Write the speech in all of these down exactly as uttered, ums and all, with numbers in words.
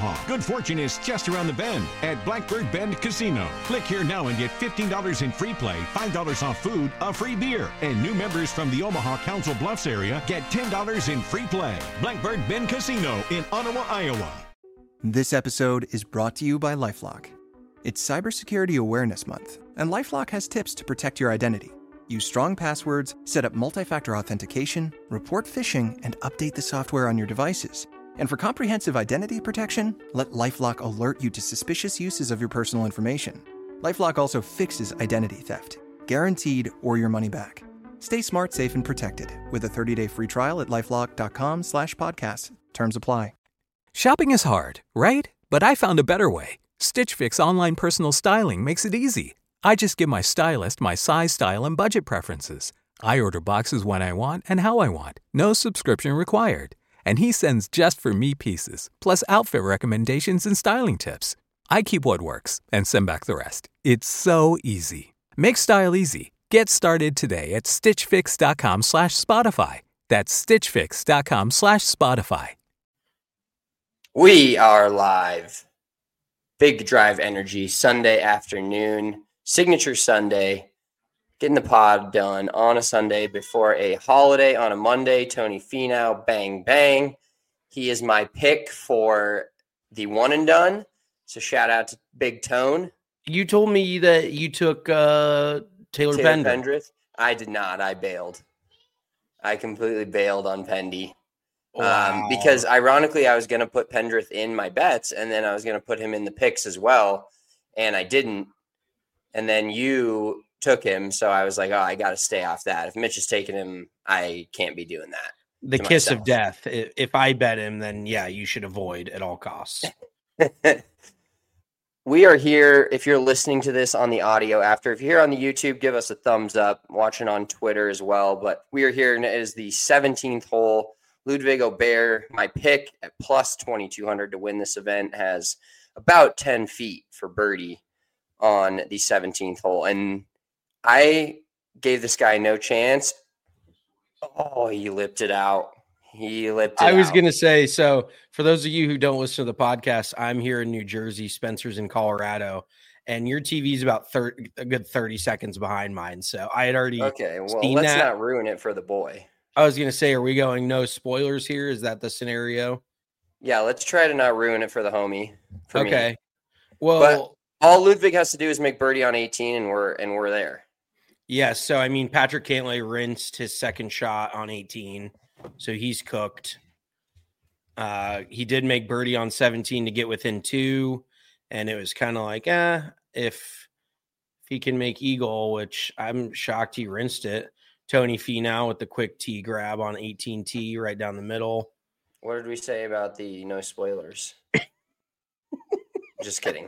Omaha. Good fortune is just around the bend at Blackbird Bend Casino. Click here now and get fifteen dollars in free play, five dollars off food, a free beer. And new members from the Omaha Council Bluffs area get ten dollars in free play. Blackbird Bend Casino in Ottawa, Iowa. This episode is brought to you by LifeLock. It's Cybersecurity Awareness Month, and LifeLock has tips to protect your identity. Use strong passwords, set up multi-factor authentication, report phishing, and update the software on your devices. And for comprehensive identity protection, let LifeLock alert you to suspicious uses of your personal information. LifeLock also fixes identity theft, guaranteed or your money back. Stay smart, safe, and protected with a thirty-day free trial at LifeLock.com slash podcast. Terms apply. Shopping is hard, right? But I found a better way. Stitch Fix online personal styling makes it easy. I just give my stylist my size, style, and budget preferences. I order boxes when I want and how I want. No subscription required. And he sends just for me pieces, plus outfit recommendations and styling tips. I keep what works and send back the rest. It's so easy. Make style easy. Get started today at stitchfix.com slash Spotify. That's stitchfix.com slash Spotify. We are live. Big Drive Energy, Sunday afternoon, signature Sunday, getting the pod done on a Sunday before a holiday on a Monday. Tony Finau, bang, bang. He is my pick for the one and done. So shout out to Big Tone. You told me that you took uh, Taylor, Taylor Pendrith. Pendrith. I did not. I bailed. I completely bailed on Pendy. Wow. Um, because ironically, I was going to put Pendrith in my bets, and then I was going to put him in the picks as well, and I didn't. And then you took him, so I was like, oh, I got to stay off that. If Mitch is taking him, I can't be doing that. The kiss myself. Of death. If I bet him, then yeah, you should avoid at all costs. We are here. If you're listening to this on the audio after, if you're here on the YouTube, give us a thumbs up. I'm watching on Twitter as well. But we are here, and it is the seventeenth hole. Ludwig Aubert, my pick at plus twenty-two hundred to win this event, has about ten feet for birdie on the seventeenth hole. And I gave this guy no chance. Oh, he lipped it out. He lipped it I was out. going to say, so for those of you who don't listen to the podcast, I'm here in New Jersey, Spencer's in Colorado, and your T V is about thirty, a good thirty seconds behind mine. So I had already Okay, well, seen let's that. not ruin it for the boy. I was going to say, are we going no spoilers here? Is that the scenario? Yeah, let's try to not ruin it for the homie. For okay. Me. Well, but all Ludwig has to do is make birdie on eighteen, and we're and we're there. Yes. So I mean, Patrick Cantlay rinsed his second shot on eighteen, so he's cooked. Uh, he did make birdie on seventeen to get within two, and it was kind of like, eh, if if he can make eagle, which I'm shocked he rinsed it. Tony Finau with the quick tee grab on eighteen T right down the middle. What did we say about the no spoilers? Just kidding.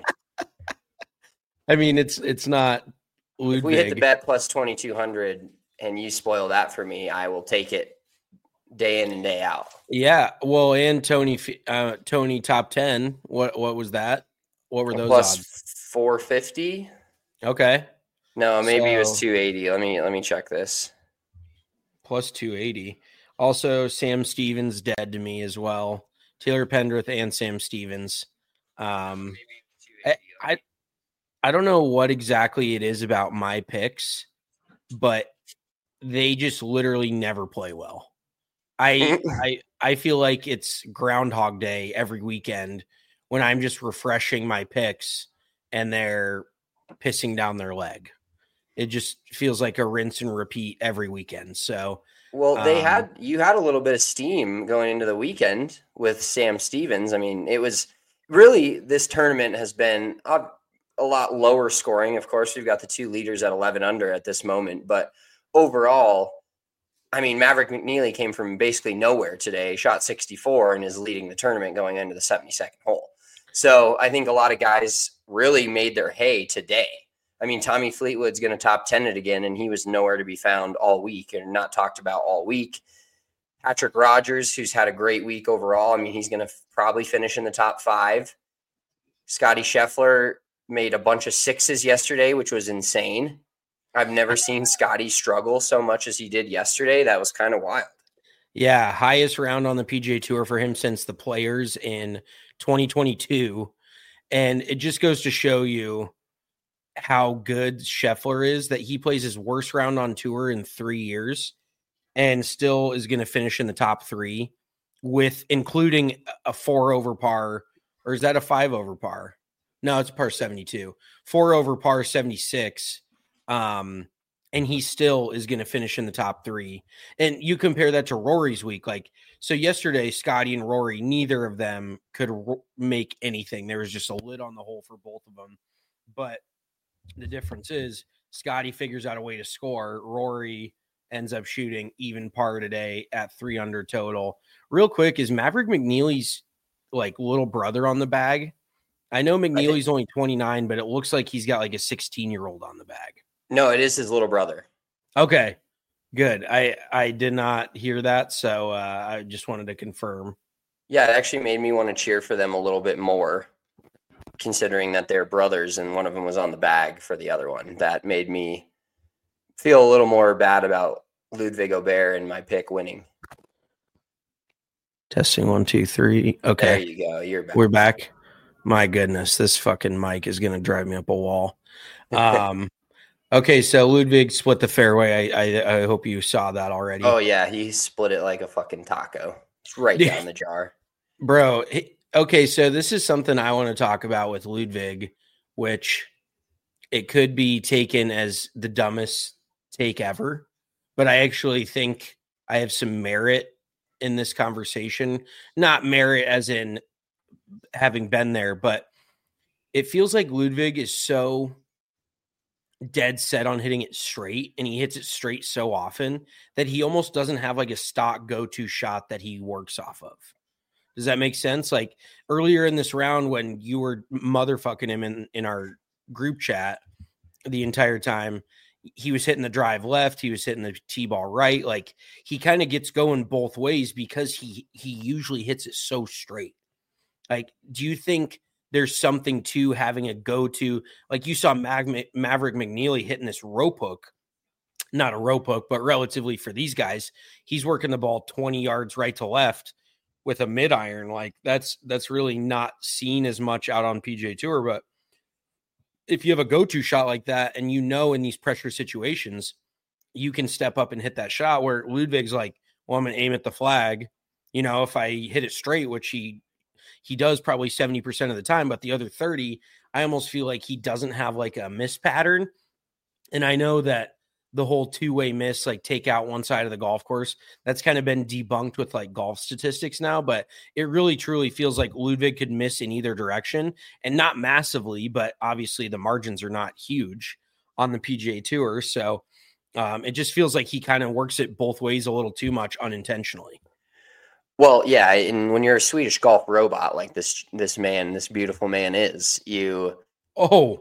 I mean, it's it's not Ludwig. If we hit the bet plus twenty-two hundred and you spoil that for me, I will take it day in and day out. Yeah. Well, and Tony uh, Tony top ten. What what was that? What were those plus odds? four fifty. Okay. No, maybe so, it was two eighty. Let me let me check this. Plus two eighty. Also, Sam Stevens dead to me as well. Taylor Pendrith and Sam Stevens. Um, I, I I don't know what exactly it is about my picks, but they just literally never play well. I I I feel like it's Groundhog Day every weekend when I'm just refreshing my picks and they're pissing down their leg. It just feels like a rinse and repeat every weekend. So, well, they um, had you had a little bit of steam going into the weekend with Sam Stevens. I mean, it was really this tournament has been a, a lot lower scoring. Of course, we've got the two leaders at eleven under at this moment, but overall, I mean, Maverick McNeely came from basically nowhere today, shot sixty-four, and is leading the tournament going into the seventy-second hole. So I think a lot of guys really made their hay today. I mean, Tommy Fleetwood's going to top ten it again, and he was nowhere to be found all week and not talked about all week. Patrick Rogers, who's had a great week overall, I mean, he's going to f- probably finish in the top five. Scotty Scheffler made a bunch of sixes yesterday, which was insane. I've never seen Scotty struggle so much as he did yesterday. That was kind of wild. Yeah, highest round on the P G A Tour for him since the Players in twenty twenty-two. And it just goes to show you how good Scheffler is, that he plays his worst round on tour in three years and still is going to finish in the top three, with including a four over par, or is that a five over par? No, it's par seventy-two, four over par seventy-six. Um, and he still is going to finish in the top three. And you compare that to Rory's week. Like, so yesterday, Scotty and Rory, neither of them could ro- make anything. There was just a lid on the hole for both of them. But the difference is Scotty figures out a way to score. Rory ends up shooting even par today at three under total. Real quick, is Maverick McNeely's like little brother on the bag? I know McNeely's I only twenty-nine, but it looks like he's got like a sixteen year old on the bag. No, it is his little brother. Okay, good. I, I did not hear that, so uh, I just wanted to confirm. Yeah, it actually made me want to cheer for them a little bit more, considering that they're brothers and one of them was on the bag for the other one. That made me feel a little more bad about Ludwig Aubert and my pick winning. Testing one, two, three. Okay. There you go. You're back. We're back. My goodness, this fucking mic is going to drive me up a wall. Um, okay, so Ludwig split the fairway. I, I I hope you saw that already. Oh, yeah. He split it like a fucking taco. It's right down the jar. Bro, he, okay, so this is something I want to talk about with Ludwig, which it could be taken as the dumbest take ever, but I actually think I have some merit in this conversation. Not merit as in having been there, but it feels like Ludwig is so dead set on hitting it straight, and he hits it straight so often that he almost doesn't have like a stock go-to shot that he works off of. Does that make sense? Like earlier in this round when you were motherfucking him in, in our group chat the entire time, he was hitting the drive left, he was hitting the T-ball right. Like he kind of gets going both ways because he he usually hits it so straight. Like, do you think there's something to having a go-to? Like you saw Mag- Maverick McNeely hitting this rope hook, not a rope hook, but relatively for these guys, he's working the ball twenty yards right to left with a mid iron. Like that's, that's really not seen as much out on P G A Tour. But if you have a go-to shot like that, and you know, in these pressure situations, you can step up and hit that shot, where Ludwig's like, well, I'm going to aim at the flag. You know, if I hit it straight, which he, he does probably seventy percent of the time, but the other thirty, I almost feel like he doesn't have like a miss pattern. And I know that the whole two-way miss, like take out one side of the golf course, that's kind of been debunked with like golf statistics now, but it really truly feels like Ludwig could miss in either direction, and not massively, but obviously the margins are not huge on the P G A Tour. So um, it just feels like he kind of works it both ways a little too much unintentionally. Well, yeah, and when you're a Swedish golf robot like this this man, this beautiful man is, you... Oh,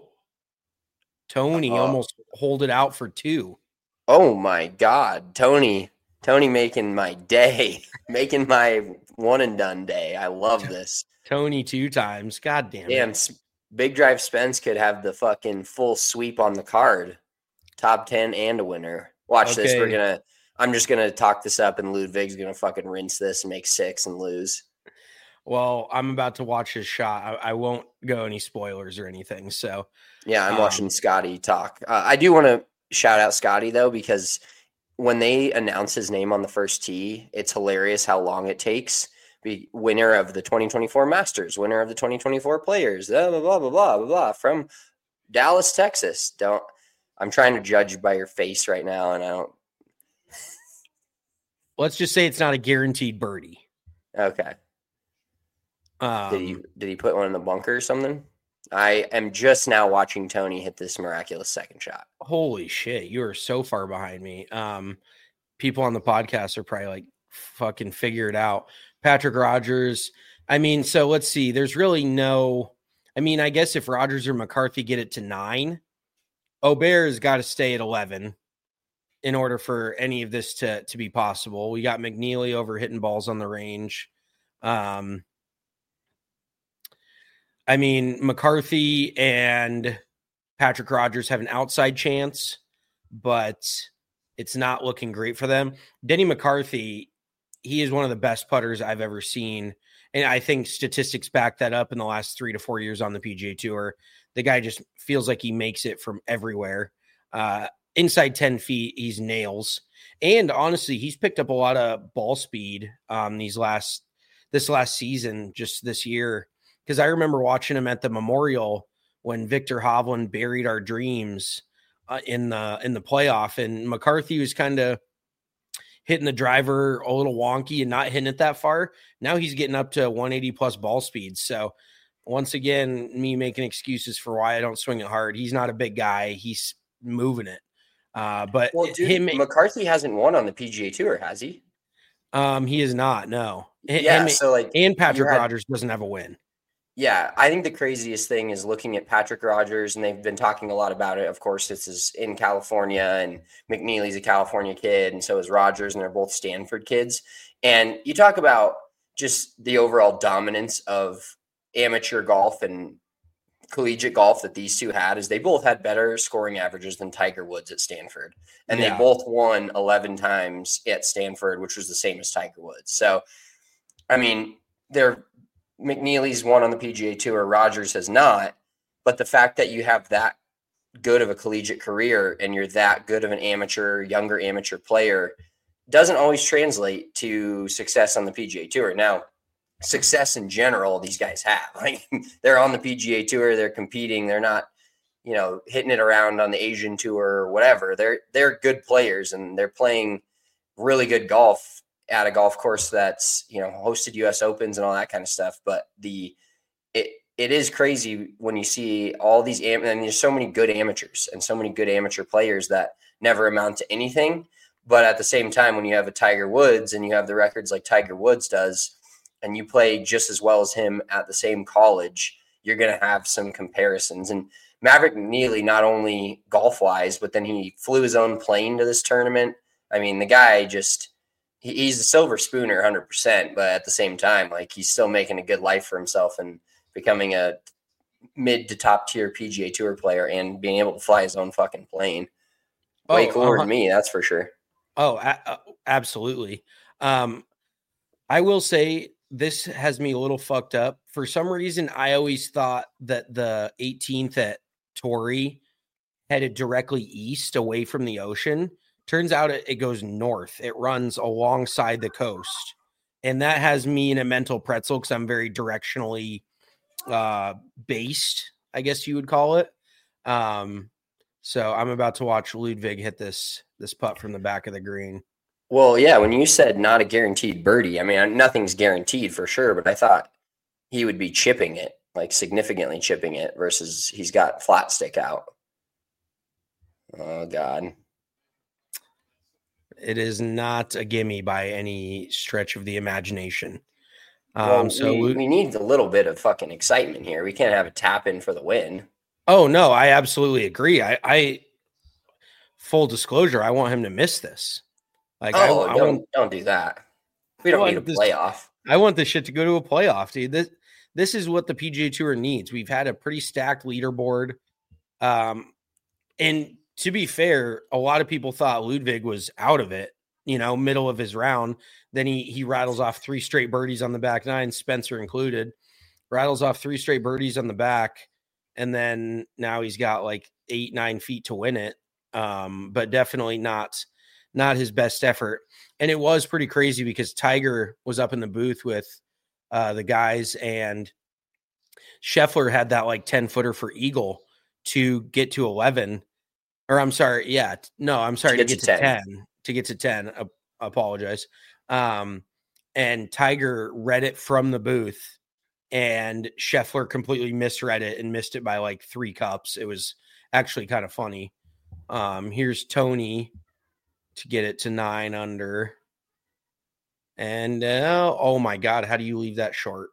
Tony uh, almost hold it out for two. Oh, my God. Tony, Tony making my day, making my one-and-done day. I love this. Tony two times. God damn Damn, it. Big Drive Spence could have the fucking full sweep on the card. Top ten and a winner. Watch Okay. this. We're going to... I'm just going to talk this up, and Ludwig's going to fucking rinse this and make six and lose. Well, I'm about to watch his shot. I, I won't go any spoilers or anything. So, yeah, I'm um, watching Scotty talk. Uh, I do want to shout out Scotty, though, because when they announce his name on the first tee, it's hilarious how long it takes. Be winner of the twenty twenty-four Masters, winner of the twenty twenty-four Players, blah, blah, blah, blah, blah, blah, blah, from Dallas, Texas. Don't. I'm trying to judge by your face right now, and I don't. Let's just say it's not a guaranteed birdie. Okay. Um, Did he did he put one in the bunker or something? I am just now watching Tony hit this miraculous second shot. Holy shit, you are so far behind me. Um, people on the podcast are probably like, fucking figure it out. Patrick Rogers. I mean, so let's see. There's really no. I mean, I guess if Rogers or McCarthy get it to nine, Aubert has got to stay at eleven. In order for any of this to, to be possible. We got McNeely over hitting balls on the range. Um, I mean, McCarthy and Patrick Rogers have an outside chance, but it's not looking great for them. Denny McCarthy, he is one of the best putters I've ever seen. And I think statistics back that up in the last three to four years on the P G A Tour. The guy just feels like he makes it from everywhere. Uh, inside ten feet, he's nails. And honestly, he's picked up a lot of ball speed um, these last this last season, just this year. Because I remember watching him at the Memorial when Victor Hovland buried our dreams uh, in the in the playoff, and McCarthy was kind of hitting the driver a little wonky and not hitting it that far. Now he's getting up to one eighty plus ball speed. So once again, me making excuses for why I don't swing it hard. He's not a big guy. He's moving it. Uh, but well, dude, him, McCarthy hasn't won on the P G A Tour, has he? Um, he is not. No. Yeah. Him, so like, and Patrick had, Rogers doesn't have a win. Yeah, I think the craziest thing is looking at Patrick Rogers, and they've been talking a lot about it. Of course, this is in California, and McNeely's a California kid, and so is Rogers, and they're both Stanford kids. And you talk about just the overall dominance of amateur golf and collegiate golf that these two had, is they both had better scoring averages than Tiger Woods at Stanford. And yeah. they both won eleven times at Stanford, which was the same as Tiger Woods. So, I mean, they're McNeely's won on the P G A Tour, Rogers has not, but the fact that you have that good of a collegiate career and you're that good of an amateur, younger amateur player doesn't always translate to success on the P G A Tour. Now, success in general, these guys have. Like, they're on the P G A Tour, they're competing, they're not, you know, hitting it around on the Asian Tour or whatever. They're they're good players, and they're playing really good golf at a golf course that's, you know, hosted U S Opens and all that kind of stuff. But the it it is crazy when you see all these am- and there's so many good amateurs and so many good amateur players that never amount to anything. But at the same time, when you have a Tiger Woods and you have the records like Tiger Woods does, and you play just as well as him at the same college, you're going to have some comparisons. And Maverick McNeely, not only golf wise, but then he flew his own plane to this tournament. I mean, the guy just, he's a silver spooner one hundred percent, but at the same time, like, he's still making a good life for himself and becoming a mid to top tier P G A Tour player and being able to fly his own fucking plane. Way oh, cooler uh, than me, that's for sure. Oh, a- absolutely. Um, I will say this has me a little fucked up. For some reason, I always thought that the eighteenth at Torrey headed directly east away from the ocean. Turns out it, it goes north. It runs alongside the coast. And that has me in a mental pretzel because I'm very directionally uh, based, I guess you would call it. Um, so I'm about to watch Ludwig hit this this putt from the back of the green. Well, yeah, when you said not a guaranteed birdie, I mean, nothing's guaranteed for sure, but I thought he would be chipping it, like significantly chipping it, versus he's got flat stick out. Oh, God. It is not a gimme by any stretch of the imagination. Um, well, so we, we need a little bit of fucking excitement here. We can't have a tap in for the win. Oh, no, I absolutely agree. I, I full disclosure, I want him to miss this. Like, oh, I, I don't, want, don't do that. We don't need a this, playoff. I want this shit to go to a playoff, dude. This, this is what the P G A Tour needs. We've had a pretty stacked leaderboard. Um, and to be fair, a lot of people thought Ludwig was out of it, you know, middle of his round. Then he he rattles off three straight birdies on the back nine, Spencer included. Rattles off three straight birdies on the back. And then now he's got like eight, nine feet to win it. Um, but definitely not, not his best effort. And it was pretty crazy because Tiger was up in the booth with uh, the guys, and Scheffler had that like ten footer for eagle to get to eleven. Or I'm sorry. Yeah. No, I'm sorry. To get, to, get to ten. ten. To get to ten. I apologize. Um, and Tiger read it from the booth, and Scheffler completely misread it and missed it by like three cups. It was actually kind of funny. Um, here's Tony to get it to nine under. And uh, oh my God, how do you leave that short?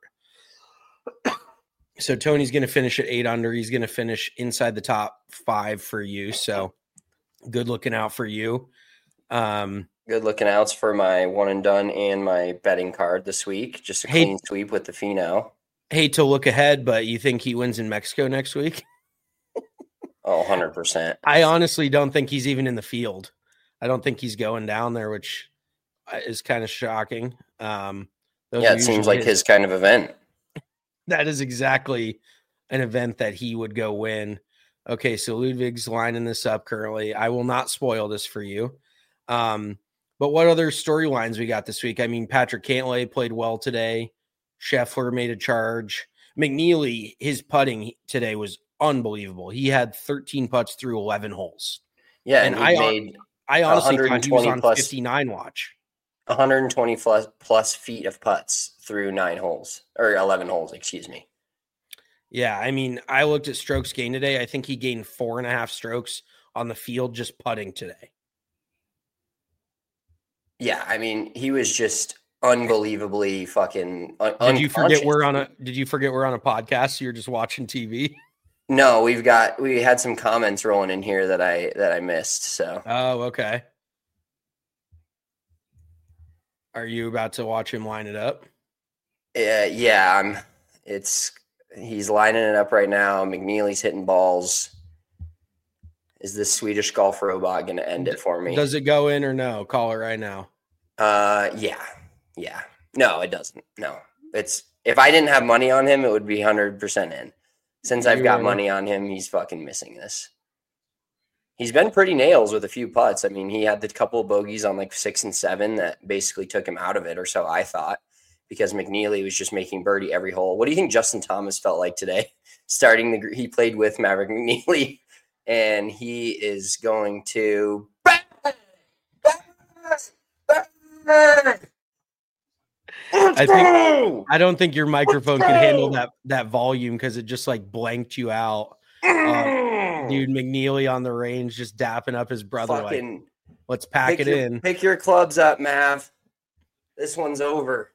So Tony's going to finish at eight under. He's going to finish inside the top five for you. So good looking out for you. Um, good looking outs for my one and done and my betting card this week. Just a hey, clean sweep with the Finau. Hate to look ahead, but you think he wins in Mexico next week? Oh, one hundred percent. I honestly don't think he's even in the field. I don't think he's going down there, which is kind of shocking. Um, yeah, it seems like his, his kind of event. That is exactly an event that he would go win. Okay, so Ludwig's lining this up currently. I will not spoil this for you. Um, but what other storylines we got this week? I mean, Patrick Cantlay played well today. Scheffler made a charge. McNeely, his putting today was unbelievable. He had thirteen putts through eleven holes. Yeah, and, and I made I honestly thought he was on plus, fifty-nine watch. one hundred twenty plus, plus feet of putts through nine holes, or eleven holes, excuse me. Yeah, I mean, I looked at strokes gained today. I think he gained four and a half strokes on the field just putting today. Yeah, I mean, he was just unbelievably fucking un- Did you forget we're on a Did you forget we're on a podcast? So you're just watching T V? No, we've got we had some comments rolling in here that I that I missed. So. Oh, okay. Are you about to watch him line it up? Yeah, yeah. I'm. It's he's lining it up right now. McNeely's hitting balls. Is this Swedish golf robot going to end it for me? Does it go in or no? Call it right now. Uh, yeah, yeah. No, it doesn't. No, it's if I didn't have money on him, it would be one hundred percent in. Since I've got money on him, he's fucking missing this. He's been pretty nails with a few putts. I mean, he had the couple of bogeys on like six and seven that basically took him out of it, or so I thought, because McNeely was just making birdie every hole. What do you think Justin Thomas felt like today? Starting the, he played with Maverick McNeely, and he is going to. I think I don't think your microphone can handle that that volume because it just like blanked you out. Um, dude, McNeely on the range just dapping up his brother. Fucking, like, let's pack it your, in. Pick your clubs up, Mav. This one's over.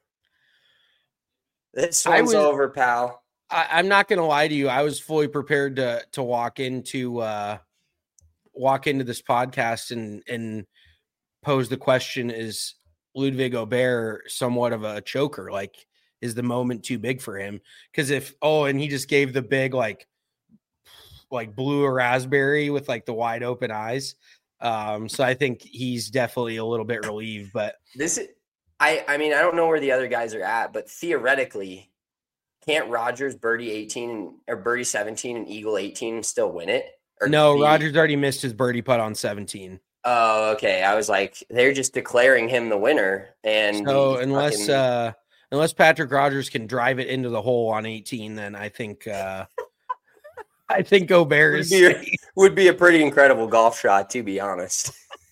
This one's was, over, pal. I, I'm not gonna lie to you. I was fully prepared to to walk into uh, walk into this podcast and and pose the question: is Ludwig Aubert somewhat of a choker? Like, is the moment too big for him? Because if oh, and he just gave the big like like blue or raspberry with like the wide open eyes. Um, so I think he's definitely a little bit relieved. But this is, I I mean, I don't know where the other guys are at, but theoretically, can't Rogers birdie eighteen and or birdie seventeen and eagle eighteen and still win it? Or no, Rogers already missed his birdie putt on seventeen. Oh, okay. I was like, they're just declaring him the winner, and so unless fucking... uh, unless Patrick Rogers can drive it into the hole on eighteen, then I think uh, I think Aubert is would be, a, would be a pretty incredible golf shot, to be honest.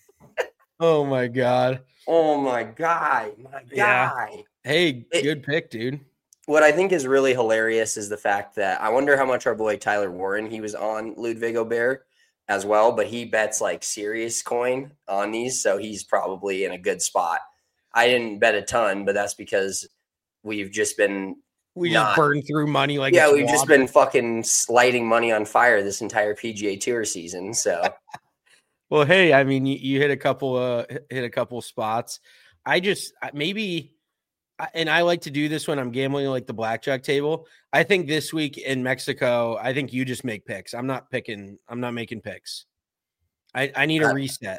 Oh my god! Oh my god! My yeah. guy. Hey, it, good pick, dude. What I think is really hilarious is the fact that I wonder how much our boy Tyler Warren, he was on Ludwig Aubert as well, but he bets like serious coin on these, so he's probably in a good spot. I didn't bet a ton, but that's because we've just been we not, just burned through money like yeah, it's we've water. Just been fucking lighting money on fire this entire P G A Tour season. So, well, hey, I mean, you, you hit a couple uh hit a couple spots. I just maybe. And I like to do this when I'm gambling like the blackjack table. I think this week in Mexico, I think you just make picks. I'm not picking. I'm not making picks. I, I need a reset.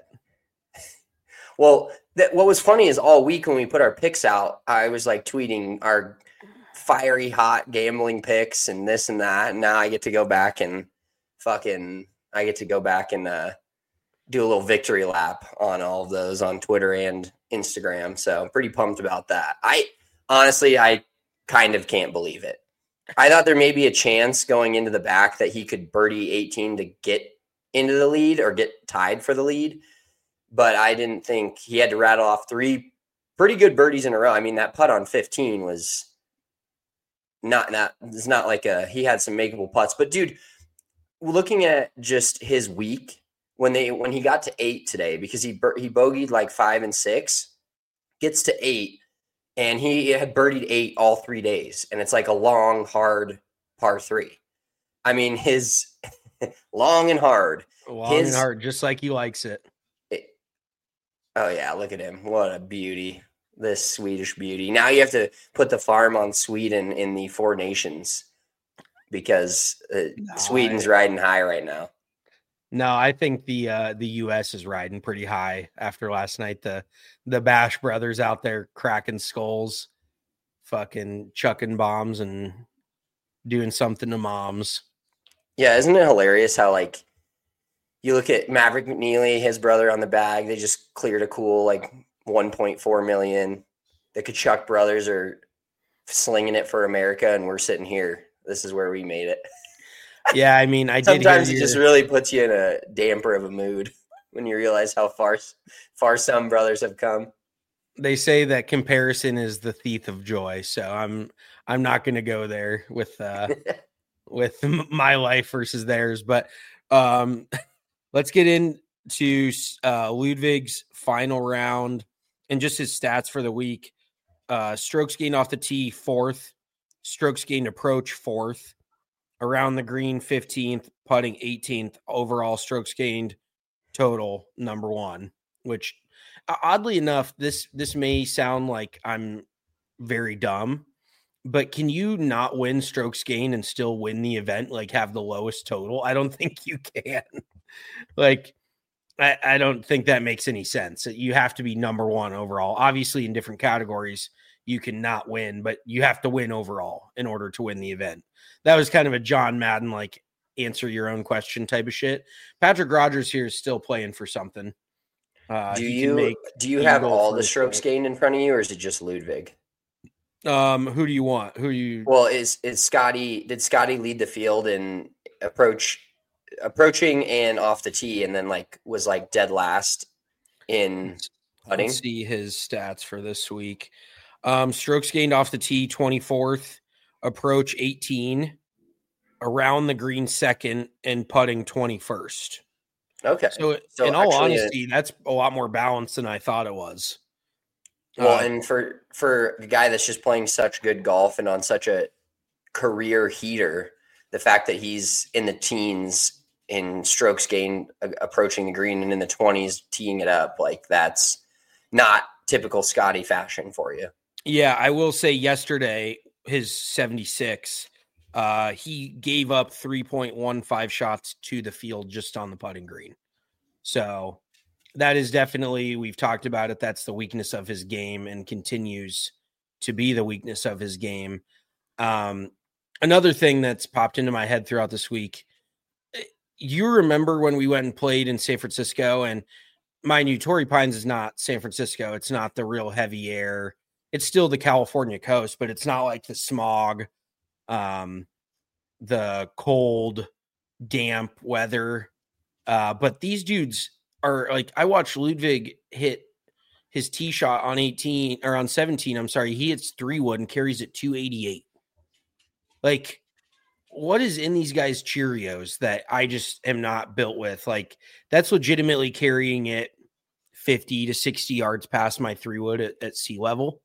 Well, th- what was funny is all week when we put our picks out, I was like tweeting our fiery hot gambling picks and this and that. And now I get to go back and fucking, I get to go back and uh, do a little victory lap on all of those on Twitter and Instagram. So I'm pretty pumped about that. I honestly, I kind of can't believe it. I thought there may be a chance going into the back that he could birdie eighteen to get into the lead or get tied for the lead. But I didn't think he had to rattle off three pretty good birdies in a row. I mean, that putt on fifteen was not, not, it's not like a, he had some makeable putts, but dude, looking at just his week, When they when he got to eight today, because he he bogeyed like five and six, gets to eight, and he had birdied eight all three days, and it's like a long, hard par three. I mean, his long and hard, long his, and hard, just like he likes it. it. Oh yeah, look at him! What a beauty, this Swedish beauty. Now you have to put the farm on Sweden in the Four Nations because uh, no, Sweden's I... riding high right now. No, I think the uh, the U S is riding pretty high after last night. The the Bash brothers out there cracking skulls, fucking chucking bombs and doing something to moms. Yeah, isn't it hilarious how like you look at Maverick McNeely, his brother on the bag, they just cleared a cool like one point four million. The Kachuk brothers are slinging it for America, and we're sitting here. This is where we made it. Yeah, I mean, I did. Sometimes hear it your... just really puts you in a damper of a mood when you realize how far far some brothers have come. They say that comparison is the thief of joy, so I'm I'm not going to go there with uh, with my life versus theirs. But um, let's get into uh, Ludwig's final round and just his stats for the week. Uh, strokes gained off the tee, fourth. Strokes gained approach, fourth. Around the green, fifteenth. Putting, eighteenth. Overall strokes gained total, number one. Which, oddly enough, this this may sound like I'm very dumb, but can you not win strokes gained and still win the event, like have the lowest total? I don't think you can. Like, I, I don't think that makes any sense. You have to be number one overall. Obviously, in different categories, you cannot win, but you have to win overall in order to win the event. That was kind of a John Madden, like, answer your own question type of shit. Patrick Rogers here is still playing for something. Uh, do you do you have all the strokes gained in front of you, or is it just Ludwig? Um, who do you want? Who you? Well, is is Scotty? Did Scotty lead the field in approach, approaching and off the tee, and then like was like dead last in putting? Let's see his stats for this week. Um, strokes gained off the tee, twenty-fourth. Approach, eighteen. Around the green, second, and putting, twenty-first. Okay. So, so in all honesty, a, that's a lot more balanced than I thought it was. Well, uh, and for for a guy that's just playing such good golf and on such a career heater, the fact that he's in the teens in strokes gained uh, approaching the green and in the twenties teeing it up, like that's not typical Scotty fashion for you. Yeah, I will say yesterday, his seventy-six, uh, he gave up three point one five shots to the field just on the putting green. So that is definitely, we've talked about it, that's the weakness of his game and continues to be the weakness of his game. Um, another thing that's popped into my head throughout this week, you remember when we went and played in San Francisco, and mind you, Torrey Pines is not San Francisco. It's not the real heavy air. It's still the California coast, but it's not like the smog, um, the cold, damp weather. Uh, but these dudes are like, I watched Ludwig hit his tee shot on eighteen or on seventeen. I'm sorry. He hits three wood and carries it two eighty-eight. Like, what is in these guys' Cheerios that I just am not built with? Like, that's legitimately carrying it fifty to sixty yards past my three wood at, at sea level.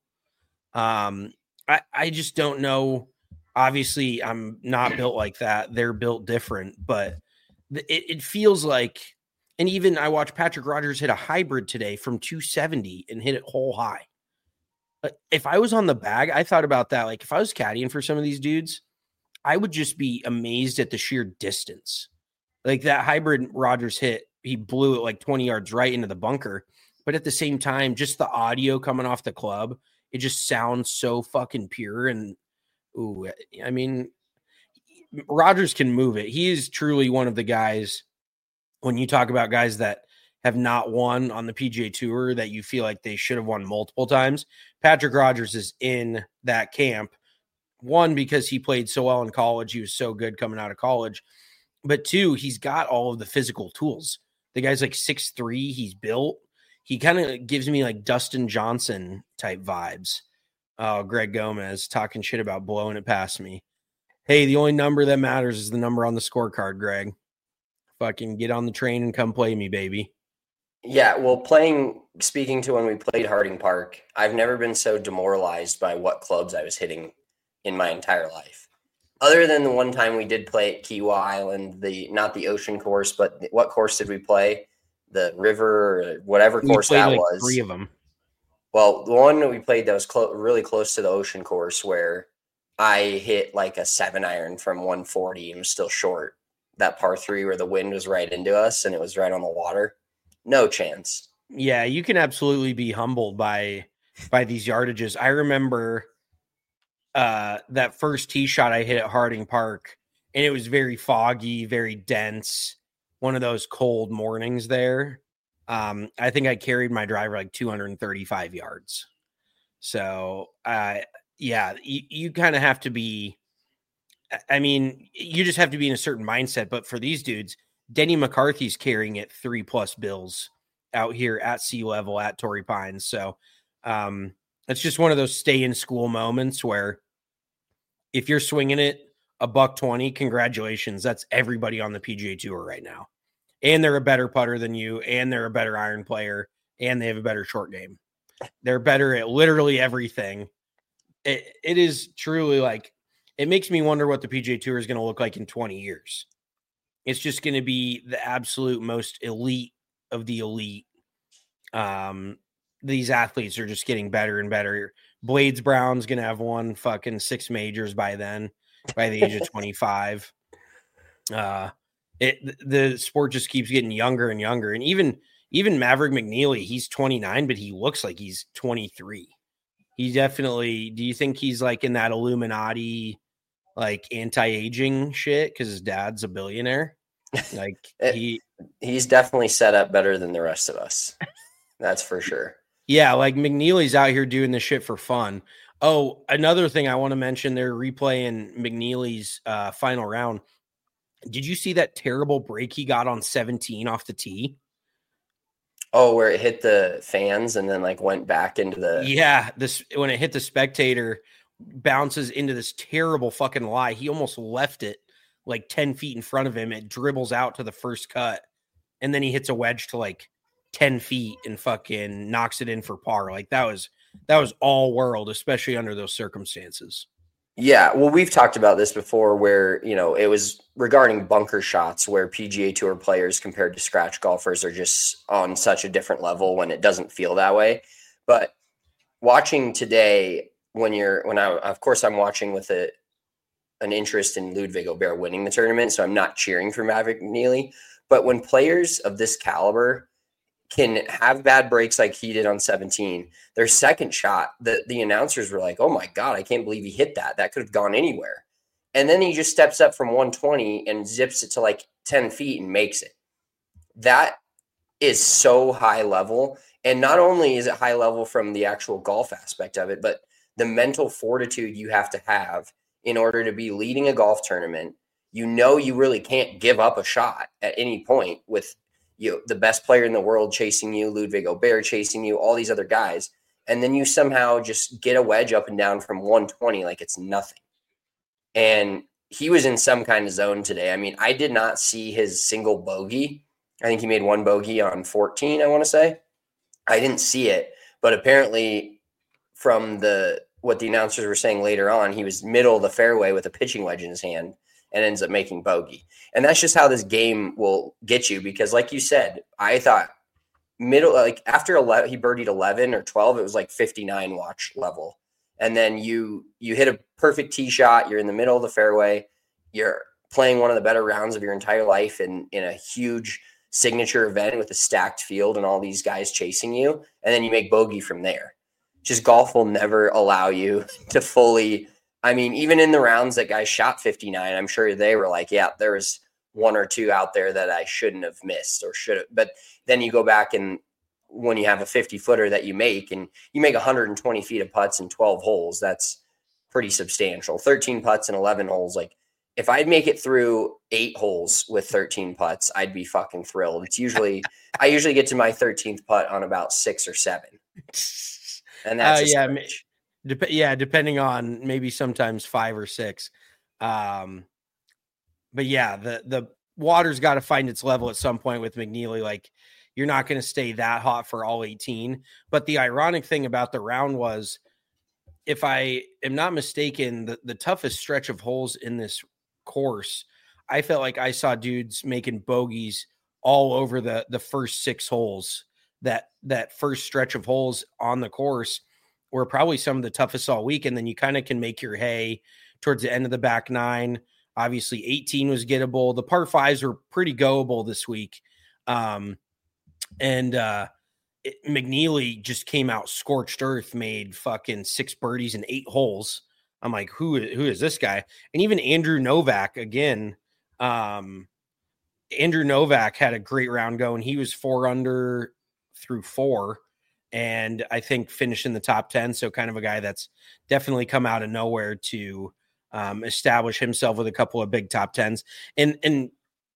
Um, I, I just don't know. Obviously, I'm not built like that. They're built different, but it, it feels like, and even I watched Patrick Rogers hit a hybrid today from two seventy and hit it hole high. But if I was on the bag, I thought about that. Like, if I was caddying for some of these dudes, I would just be amazed at the sheer distance. Like that hybrid Rogers hit, he blew it like twenty yards right into the bunker. But at the same time, just the audio coming off the club, it just sounds so fucking pure. And, ooh, I mean, Rogers can move it. He is truly one of the guys, when you talk about guys that have not won on the P G A Tour, that you feel like they should have won multiple times, Patrick Rogers is in that camp. One, because he played so well in college. He was so good coming out of college. But two, he's got all of the physical tools. The guy's like six three. He's built. He kind of gives me like Dustin Johnson type vibes. Oh, Greg Gomez talking shit about blowing it past me. Hey, the only number that matters is the number on the scorecard, Greg. Fucking get on the train and come play me, baby. Yeah, well, playing, speaking to when we played Harding Park, I've never been so demoralized by what clubs I was hitting in my entire life. Other than the one time we did play at Kiawah Island, the not the ocean course, but what course did we play? The river or whatever course that like was. Three of them. Well, the one that we played that was clo- really close to the ocean course where I hit like a seven iron from one forty and was still short. that par three where the wind was right into us and it was right on the water. No chance. Yeah, you can absolutely be humbled by by these yardages. I remember uh, that first tee shot I hit at Harding Park, and it was very foggy, very dense, one of those cold mornings there. Um, I think I carried my driver like two hundred thirty-five yards. So, uh, yeah, you, you kind of have to be, I mean, you just have to be in a certain mindset. But for these dudes, Denny McCarthy's carrying it three plus bills out here at sea level at Torrey Pines. So um, it's just one of those stay in school moments where if you're swinging it a buck twenty, congratulations. That's everybody on the P G A Tour right now. And they're a better putter than you, and they're a better iron player, and they have a better short game. They're better at literally everything. It, it is truly like, it makes me wonder what the P G A Tour is going to look like in twenty years. It's just going to be the absolute most elite of the elite. Um, these athletes are just getting better and better. Blades Brown's going to have won fucking six majors by then, by the age of twenty-five. Uh, it, the sport just keeps getting younger and younger. And even, even Maverick McNeely, he's twenty-nine, but he looks like he's twenty-three. He definitely, do you think he's like in that Illuminati, like anti-aging shit? Cause his dad's a billionaire. Like he, he's definitely set up better than the rest of us. That's for sure. Yeah. Like McNeely's out here doing this shit for fun. Oh, another thing I want to mention, they're replaying McNeely's uh, final round. Did you see that terrible break he got on seventeen off the tee? Oh, where it hit the fans and then like went back into the. Yeah. This, when it hit the spectator, bounces into this terrible fucking lie. He almost left it like ten feet in front of him. It dribbles out to the first cut. And then he hits a wedge to like ten feet and fucking knocks it in for par. Like that was, that was all world, especially under those circumstances. Yeah. Well, we've talked about this before where, you know, it was regarding bunker shots where P G A Tour players compared to scratch golfers are just on such a different level when it doesn't feel that way. But watching today, when you're, when I, of course I'm watching with a, an interest in Ludwig Aubert winning the tournament. So I'm not cheering for Maverick McNeely, but when players of this caliber can have bad breaks like he did on seventeen, their second shot, the, the announcers were like, oh my God, I can't believe he hit that. That could have gone anywhere. And then he just steps up from one twenty and zips it to like ten feet and makes it. That is so high level. And not only is it high level from the actual golf aspect of it, but the mental fortitude you have to have in order to be leading a golf tournament. You know, you really can't give up a shot at any point with you, the best player in the world chasing you, Ludwig Aubert chasing you, all these other guys. And then you somehow just get a wedge up and down from one twenty like it's nothing. And he was in some kind of zone today. I mean, I did not see his single bogey. I think he made one bogey on fourteen, I want to say. I didn't see it, but apparently from the what the announcers were saying later on, he was middle of the fairway with a pitching wedge in his hand and ends up making bogey. And that's just how this game will get you. Because like you said, I thought middle, like after eleven, he birdied eleven or twelve, it was like fifty-nine watch level. And then you, you hit a perfect tee shot. You're in the middle of the fairway. You're playing one of the better rounds of your entire life in, in a huge signature event with a stacked field and all these guys chasing you. And then you make bogey from there. Just golf will never allow you to fully, I mean, even in the rounds that guys shot fifty-nine, I'm sure they were like, yeah, there was one or two out there that I shouldn't have missed or should have. But then you go back and when you have a fifty footer that you make and you make one hundred twenty feet of putts in twelve holes, that's pretty substantial. thirteen putts in eleven holes. Like if I'd make it through eight holes with thirteen putts, I'd be fucking thrilled. It's usually, I usually get to my thirteenth putt on about six or seven. And that's uh, yeah, dep- yeah, depending on maybe sometimes five or six. Um, but yeah, the the water's got to find its level at some point with McNeely. Like you're not going to stay that hot for all eighteen. But the ironic thing about the round was, if I am not mistaken, the, the toughest stretch of holes in this course, I felt like I saw dudes making bogeys all over the the first six holes. That that first stretch of holes on the course were probably some of the toughest all week. And then you kind of can make your hay towards the end of the back nine. Obviously, eighteen was gettable. The par fives were pretty goable this week. Um, and uh, it, McNeely just came out scorched earth, made fucking six birdies and eight holes. I'm like, who, who is this guy? And even Andrew Novak, again, um, Andrew Novak had a great round going. He was four under through four, and I think finished in the top ten. So kind of a guy that's definitely come out of nowhere to um, establish himself with a couple of big top tens. And, and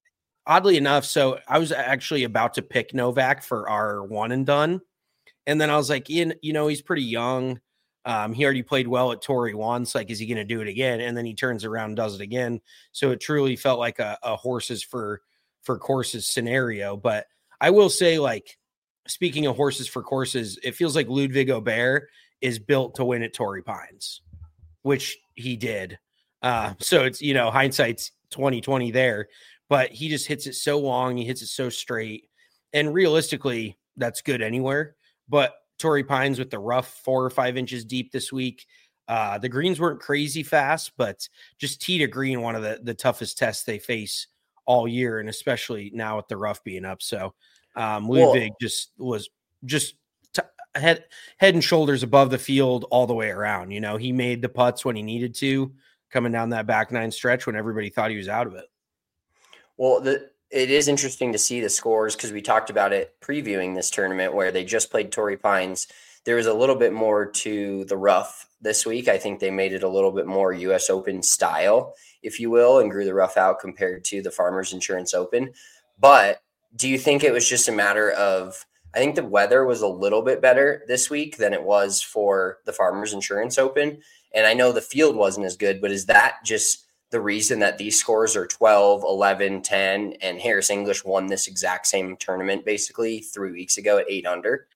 oddly enough, so I was actually about to pick Novak for our one and done. And then I was like, Ian, you know, he's pretty young. Um, he already played well at Torrey once. Like, is he going to do it again? And then he turns around and does it again. So it truly felt like a, a horses for, for courses scenario. But I will say, like, speaking of horses for courses, it feels like Ludwig Aubert is built to win at Torrey Pines, which he did. Uh, so it's, you know, hindsight's twenty twenty there, but he just hits it so long. He hits it so straight. And realistically, that's good anywhere. But Torrey Pines with the rough four or five inches deep this week. Uh, the greens weren't crazy fast, but just tee to green, one of the, the toughest tests they face all year, and especially now with the rough being up. So um, Ludwig well, just was just t- head head and shoulders above the field all the way around. You know, he made the putts when he needed to, coming down that back nine stretch when everybody thought he was out of it. Well, the it is interesting to see the scores because we talked about it previewing this tournament where they just played Torrey Pines. There was a little bit more to the rough this week. I think they made it a little bit more U S Open style, if you will, and grew the rough out compared to the Farmers Insurance Open. But do you think it was just a matter of, I think the weather was a little bit better this week than it was for the Farmers Insurance Open. And I know the field wasn't as good, but is that just the reason that these scores are twelve, eleven, ten, and Harris English won this exact same tournament basically three weeks ago at eight under?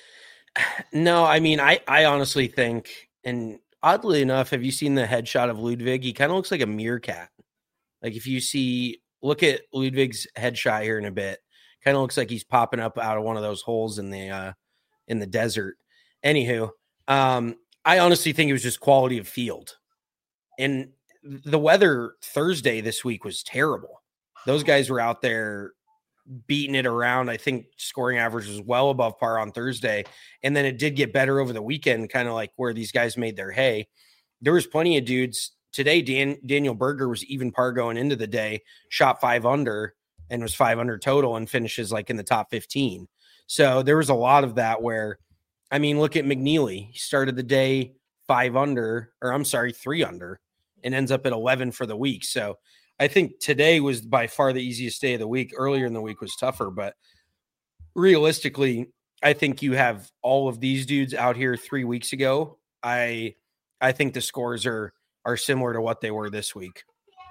No, I mean, I, I honestly think, and oddly enough, have you seen the headshot of Ludwig? He kind of looks like a meerkat. Like if you see, look at Ludwig's headshot here in a bit, kind of looks like he's popping up out of one of those holes in the, uh, in the desert. Anywho, um, I honestly think it was just quality of field. And the weather Thursday this week was terrible. Those guys were out there beating it around. I think scoring average was well above par on Thursday. And then it did get better over the weekend, kind of like where these guys made their hay. There was plenty of dudes today. Dan, Daniel Berger was even par going into the day, shot five under and was five under total and finishes like in the top fifteen. So there was a lot of that where, I mean, look at McNeely. He started the day five under, or I'm sorry, three under, and ends up at eleven for the week. So I think today was by far the easiest day of the week. Earlier in the week was tougher, but realistically, I think you have all of these dudes out here three weeks ago. I I think the scores are are similar to what they were this week.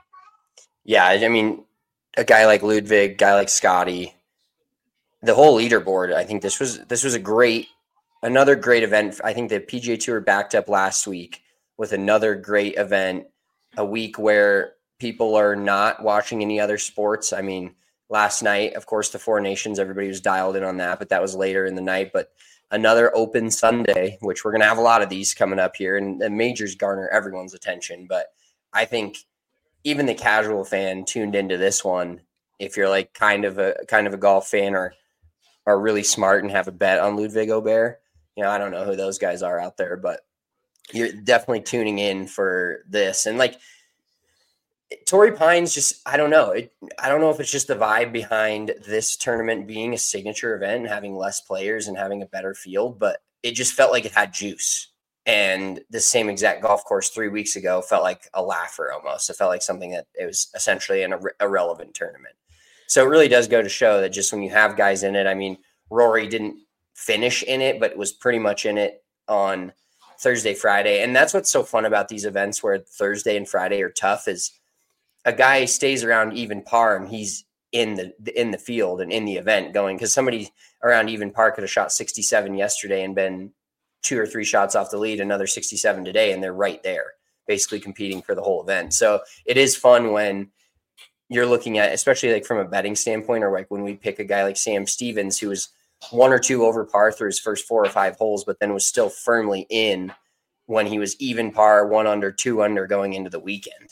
Yeah, I mean, a guy like Ludwig, guy like Scotty, the whole leaderboard. I think this was this was a great, another great event. I think the P G A Tour backed up last week with another great event. A week where people are not watching any other sports. I mean, last night, of course, the Four Nations, everybody was dialed in on that, but that was later in the night. But another open Sunday, which we're going to have a lot of these coming up here, and the majors garner everyone's attention. But I think even the casual fan tuned into this one, if you're like kind of a kind of a golf fan or are really smart and have a bet on Ludwig Aubert, you know, I don't know who those guys are out there, but you're definitely tuning in for this. And like Torrey Pines, just, I don't know. It, I don't know if it's just the vibe behind this tournament being a signature event and having less players and having a better field, but it just felt like it had juice. And the same exact golf course three weeks ago felt like a laugher almost. It felt like something that it was essentially an ir- irrelevant tournament. So it really does go to show that just when you have guys in it, I mean, Rory didn't finish in it, but was pretty much in it on Thursday, Friday. And that's what's so fun about these events where Thursday and Friday are tough is a guy stays around even par and he's in the in the field and in the event going, because somebody around even par could have shot sixty-seven yesterday and been two or three shots off the lead, another sixty-seven today, and they're right there basically competing for the whole event. So it is fun when you're looking at, especially like from a betting standpoint, or like when we pick a guy like Sam Stevens, who was one or two over par through his first four or five holes, but then was still firmly in when he was even par, one under, two under going into the weekend.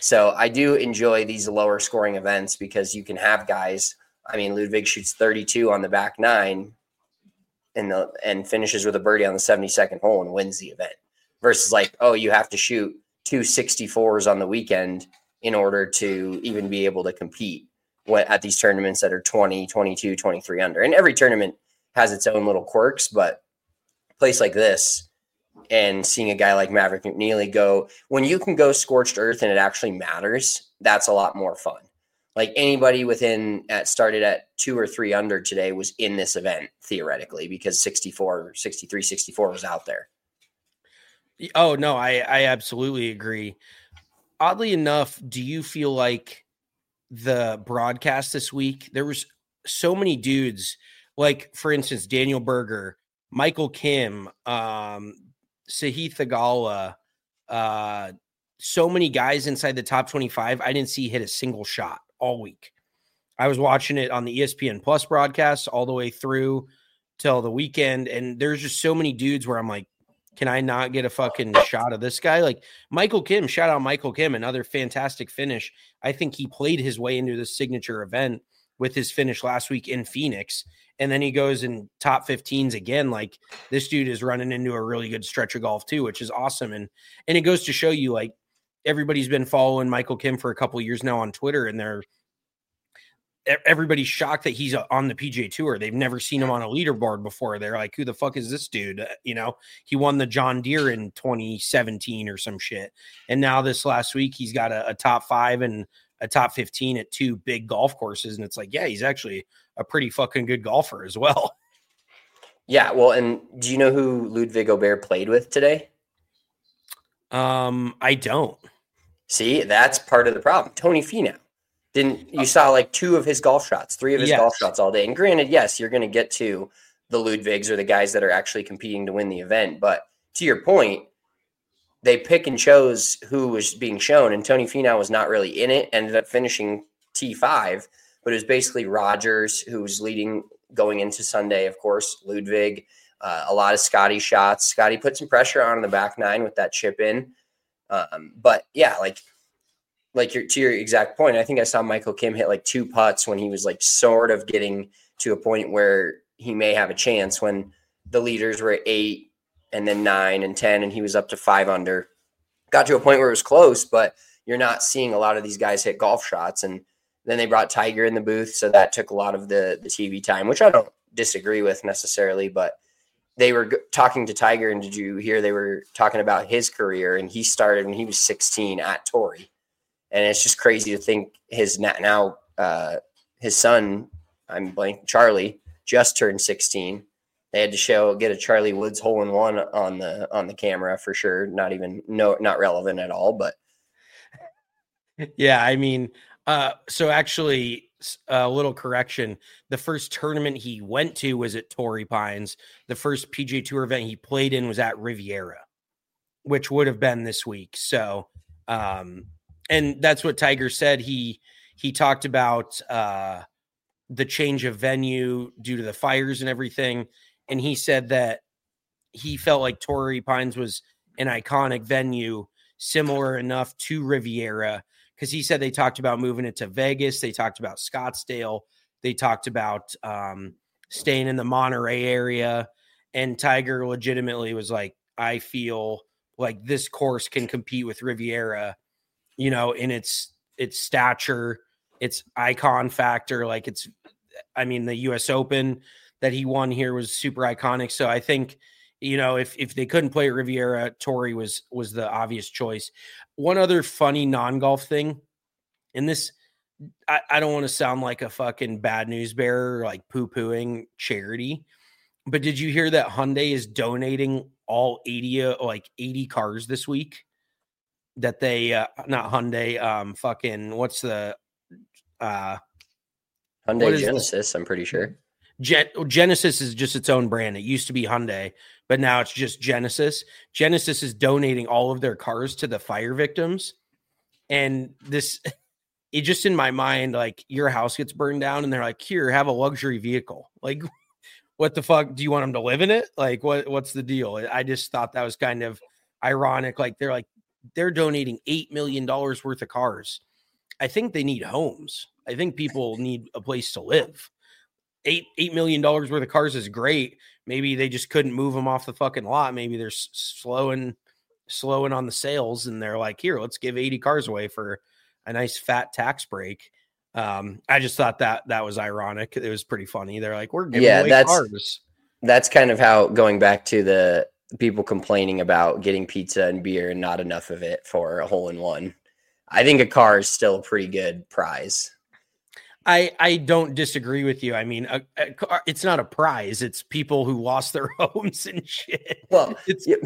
So I do enjoy these lower scoring events because you can have guys. I mean, Ludwig shoots thirty-two on the back nine and the and finishes with a birdie on the seventy-second hole and wins the event. Versus like, oh, you have to shoot two sixty-fours on the weekend in order to even be able to compete at these tournaments that are twenty, twenty-two, twenty-three under. And every tournament has its own little quirks, but a place like this and seeing a guy like Maverick McNeely go, when you can go scorched earth and it actually matters, that's a lot more fun. Like anybody within at started at two or three under today was in this event theoretically because sixty-four, sixty-three, sixty-four was out there. Oh no, I, I absolutely agree. Oddly enough, do you feel like the broadcast this week, there was so many dudes, like for instance, Daniel Berger, Michael Kim, um, Sahith Theegala, uh, so many guys inside the top twenty-five. I didn't see hit a single shot all week. I was watching it on the E S P N Plus broadcast all the way through till the weekend. And there's just so many dudes where I'm like, can I not get a fucking shot of this guy? Like Michael Kim, shout out Michael Kim, another fantastic finish. I think he played his way into the signature event with his finish last week in Phoenix. And then he goes in top fifteens again. Like this dude is running into a really good stretch of golf too, which is awesome. And, and it goes to show you, like, everybody's been following Michael Kim for a couple of years now on Twitter, and they're everybody's shocked that he's on the P G A Tour. They've never seen him on a leaderboard before. They're like, who the fuck is this dude? Uh, you know, he won the John Deere in twenty seventeen or some shit. And now this last week, he's got a, a top five and a top fifteen at two big golf courses. And it's like, yeah, he's actually a pretty fucking good golfer as well. Yeah. Well, and do you know who Ludwig Aubert played with today? Um, I don't. See, that's part of the problem. Tony Finau. Didn't you saw like two of his golf shots, three of his yes. golf shots all day. And granted, yes, you're going to get to the Ludwigs or the guys that are actually competing to win the event. But to your point, they pick and chose who was being shown. And Tony Finau was not really in it, ended up finishing T five. But it was basically Rogers who was leading going into Sunday, of course, Ludwig, uh, a lot of Scotty shots. Scotty put some pressure on in the back nine with that chip in. Um, but yeah, like, Like your, to your exact point, I think I saw Michael Kim hit like two putts when he was like sort of getting to a point where he may have a chance when the leaders were at eight and then nine and ten, and he was up to five under. Got to a point where it was close, but you're not seeing a lot of these guys hit golf shots. And then they brought Tiger in the booth, so that took a lot of the, the T V time, which I don't disagree with necessarily, but they were g- talking to Tiger, and did you hear they were talking about his career? And he started when he was sixteen at Torrey. And it's just crazy to think his now uh, his son, I'm blank, Charlie, just turned sixteen. They had to show get a Charlie Woods hole in one on the on the camera for sure. Not even no, not relevant at all. But yeah, I mean, uh, so actually, a little correction: the first tournament he went to was at Torrey Pines. The first P G A Tour event he played in was at Riviera, which would have been this week. So. Um, And that's what Tiger said. He he talked about uh, the change of venue due to the fires and everything. And he said that he felt like Torrey Pines was an iconic venue, similar enough to Riviera, because he said they talked about moving it to Vegas. They talked about Scottsdale. They talked about um, staying in the Monterey area. And Tiger legitimately was like, I feel like this course can compete with Riviera, you know, in its its stature, its icon factor. Like it's, I mean, the U S Open that he won here was super iconic. So I think, you know, if if they couldn't play at Riviera, Torrey was was the obvious choice. One other funny non-golf thing, and this, I, I don't want to sound like a fucking bad news bearer, like poo-pooing charity, but did you hear that Hyundai is donating all eighty, like eighty cars this week? That they uh, not Hyundai, um, fucking what's the uh, Hyundai Genesis? I'm pretty sure. Gen- Genesis is just its own brand. It used to be Hyundai, but now it's just Genesis. Genesis is donating all of their cars to the fire victims, and this, it just in my mind, like your house gets burned down, and they're like, "Here, have a luxury vehicle." Like, what the fuck? Do you want them to live in it? Like, what? What's the deal? I just thought that was kind of ironic. Like they're like, they're donating eight million dollars worth of cars. I think they need homes. I think people need a place to live. Eight, eight million dollars worth of cars is great. Maybe they just couldn't move them off the fucking lot. Maybe they're s- slowing, slowing on the sales and they're like, here, let's give eighty cars away for a nice fat tax break. Um, I just thought that that was ironic. It was pretty funny. They're like, we're giving yeah, away that's, cars. That's kind of how, going back to the people complaining about getting pizza and beer and not enough of it for a hole in one. I think a car is still a pretty good prize. I, I don't disagree with you. I mean, a, a car, it's not a prize. It's people who lost their homes and shit. Well, it's, yeah.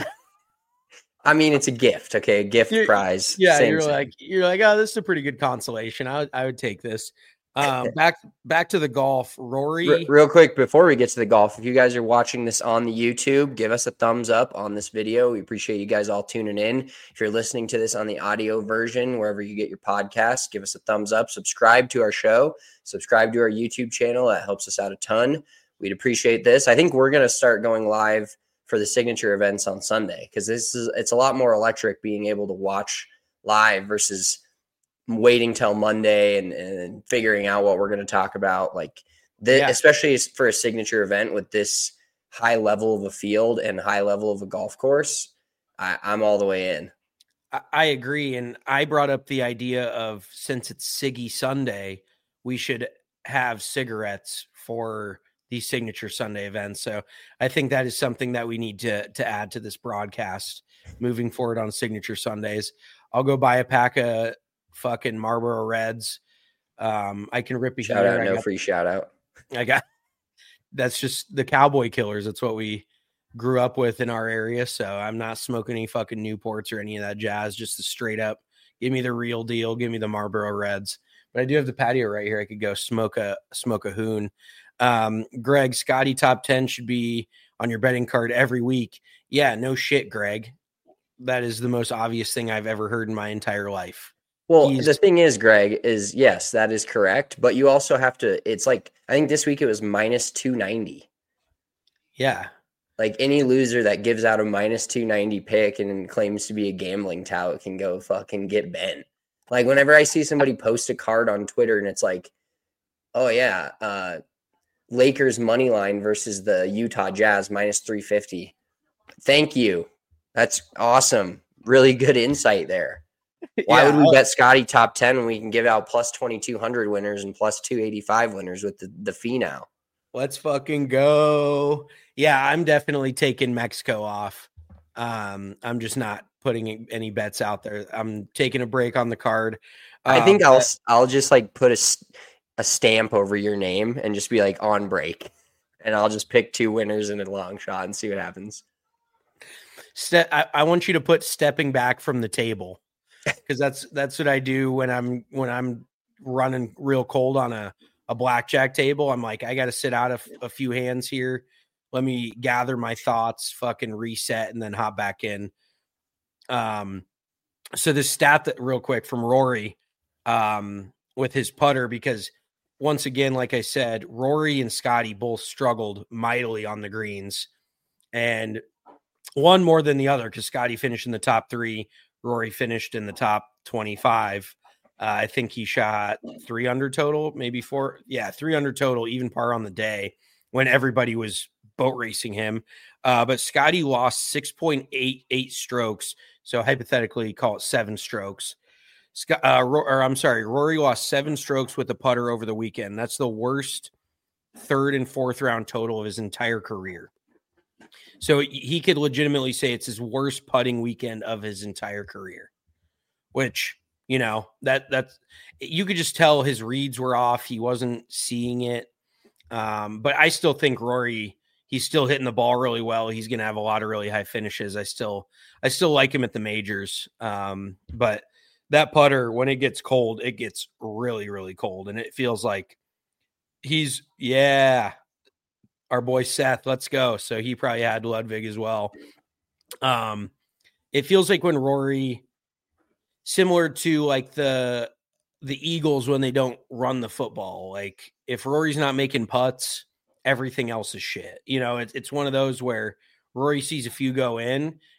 I mean, it's a gift. Okay. A gift you're, prize. Yeah. Same you're thing. like, you're like, oh, this is a pretty good consolation. I would, I would take this. Um, back, back to the golf, Rory. Re- real quick, before we get to the golf, if you guys are watching this on the YouTube, give us a thumbs up on this video. We appreciate you guys all tuning in. If you're listening to this on the audio version, wherever you get your podcasts, give us a thumbs up, subscribe to our show, subscribe to our YouTube channel. That helps us out a ton. We'd appreciate this. I think we're going to start going live for the signature events on Sunday, because this is, it's a lot more electric being able to watch live versus waiting till Monday and, and figuring out what we're going to talk about. Like the, yeah. especially for a signature event with this high level of a field and high level of a golf course, I, I'm all the way in. I, I agree. And I brought up the idea of, since it's Siggy Sunday, we should have cigarettes for these signature Sunday events. So I think that is something that we need to, to add to this broadcast moving forward on signature Sundays. I'll go buy a pack of fucking Marlboro Reds. Um, I can rip a shout out, no got, free shout out. I got, that's just the Cowboy Killers. That's what we grew up with in our area. So I'm not smoking any fucking Newports or any of that jazz. Just the straight up, give me the real deal. Give me the Marlboro Reds. But I do have the patio right here. I could go smoke a, smoke a hoon. Um, Greg, Scotty top ten should be on your betting card every week. Yeah, no shit, Greg. That is the most obvious thing I've ever heard in my entire life. Well, He's, the thing is, Greg, is yes, that is correct. But you also have to, it's like, I think this week it was minus two ninety. Yeah. Like any loser that gives out a minus two ninety pick and claims to be a gambling tout can go fucking get bent. Like whenever I see somebody post a card on Twitter and it's like, oh yeah, uh, Lakers money line versus the Utah Jazz minus three fifty. Thank you. That's awesome. Really good insight there. Why yeah, would we bet Scotty top ten when we can give out plus twenty-two hundred winners and plus two eighty-five winners with the, the fee now? Let's fucking go. Yeah, I'm definitely taking Mexico off. Um, I'm just not putting any bets out there. I'm taking a break on the card. Um, I think I'll but- I'll just like put a, a stamp over your name and just be like on break. And I'll just pick two winners in a long shot and see what happens. Ste- I, I want you to put stepping back from the table. Because that's that's what I do when I'm when I'm running real cold on a, a blackjack table. I'm like, I got to sit out a, f- a few hands here. Let me gather my thoughts, fucking reset, and then hop back in. Um, so this stat that real quick from Rory, um, with his putter, because once again, like I said, Rory and Scotty both struggled mightily on the greens, and one more than the other because Scotty finished in the top three. Rory finished in the top twenty-five. Uh, I think he shot three under total, maybe four. Yeah, three under total, even par on the day when everybody was boat racing him. Uh, but Scotty lost six point eight eight strokes. So hypothetically, call it seven strokes. Scott, uh, or I'm sorry, Rory lost seven strokes with the putter over the weekend. That's the worst third and fourth round total of his entire career. So he could legitimately say it's his worst putting weekend of his entire career, which, you know, that that's, you could just tell his reads were off. He wasn't seeing it. Um, but I still think Rory, he's still hitting the ball really well. He's going to have a lot of really high finishes. I still, I still like him at the majors. Um, but that putter, when it gets cold, it gets really, really cold. And it feels like he's, yeah, our boy Seth, let's go. So he probably had Ludwig as well. Um, it feels like when Rory, similar to like the the Eagles when they don't run the football, like if Rory's not making putts, everything else is shit. You know, it's it's one of those where Rory sees a few go in,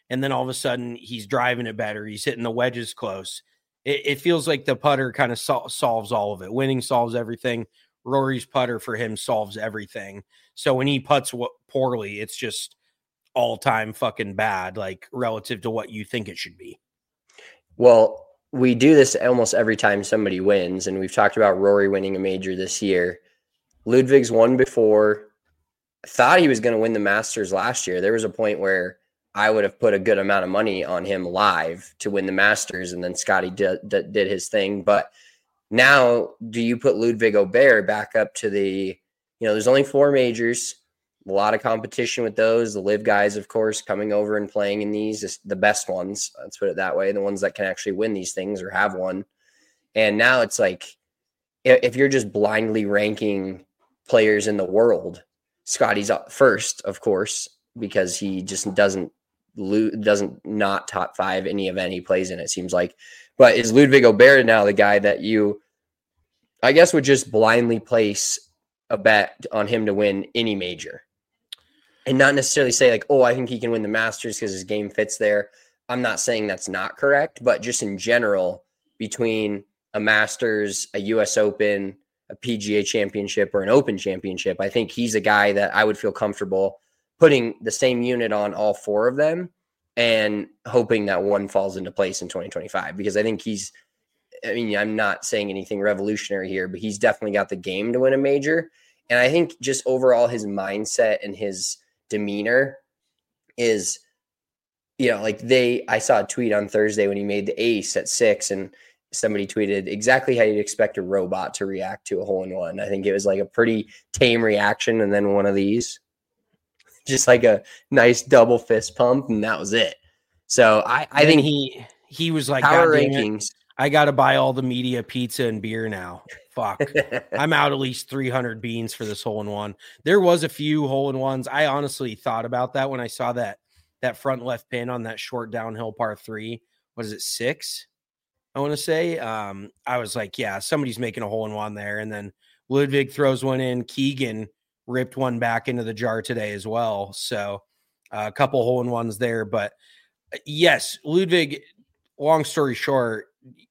and then all of a sudden he's driving it better. He's hitting the wedges close. It, it feels like the putter kind of sol- solves all of it. Winning solves everything. Rory's putter for him solves everything. So when he putts w- poorly, it's just all time fucking bad, like relative to what you think it should be. Well, we do this almost every time somebody wins, and we've talked about Rory winning a major this year. Ludwig's won before. I thought he was going to win the Masters last year. There was a point where I would have put a good amount of money on him live to win the Masters, and then Scotty did, did, did his thing. But now, do you put Ludwig Aubert back up to the, you know, there's only four majors, a lot of competition with those. The live guys, of course, coming over and playing in these, the best ones, let's put it that way, the ones that can actually win these things or have won. And now it's like, if you're just blindly ranking players in the world, Scotty's up first, of course, because he just doesn't lo- doesn't not top five any event he plays in, it seems like. But is Ludwig Aubert now the guy that you, I guess, would just blindly place a bet on him to win any major? And not necessarily say like, oh, I think he can win the Masters because his game fits there. I'm not saying that's not correct, but just in general, between a Masters, a U S Open, a P G A championship, or an Open championship, I think he's a guy that I would feel comfortable putting the same unit on all four of them and hoping that one falls into place in twenty twenty-five, because I think he's, I mean, I'm not saying anything revolutionary here, but he's definitely got the game to win a major. And I think just overall his mindset and his demeanor is, you know, like they, I saw a tweet on Thursday when he made the ace at six, and somebody tweeted exactly how you'd expect a robot to react to a hole in one. I think it was like a pretty tame reaction. And then one of these, just like a nice double fist pump, and that was it. So I, I think he, he was like, power God rankings. It, I got to buy all the media pizza and beer now. Fuck. I'm out at least three hundred beans for this hole in one. There was a few hole in ones. I honestly thought about that when I saw that, that front left pin on that short downhill par three. What is it? Six? I want to say, um, I was like, yeah, somebody's making a hole in one there. And then Ludwig throws one in. Keegan ripped one back into the jar today as well. So uh, a couple hole in ones there, but yes, Ludwig, long story short,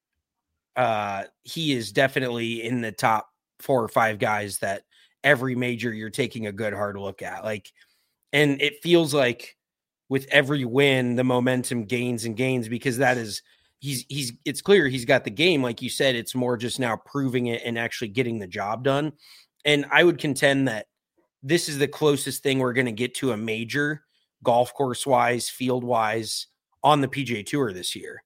uh, he is definitely in the top four or five guys that every major you're taking a good hard look at. Like, and it feels like with every win, the momentum gains and gains, because that is, he's, he's, it's clear he's got the game. Like you said, it's more just now proving it and actually getting the job done. And I would contend that this is the closest thing we're going to get to a major golf course wise, field wise on the P G A Tour this year.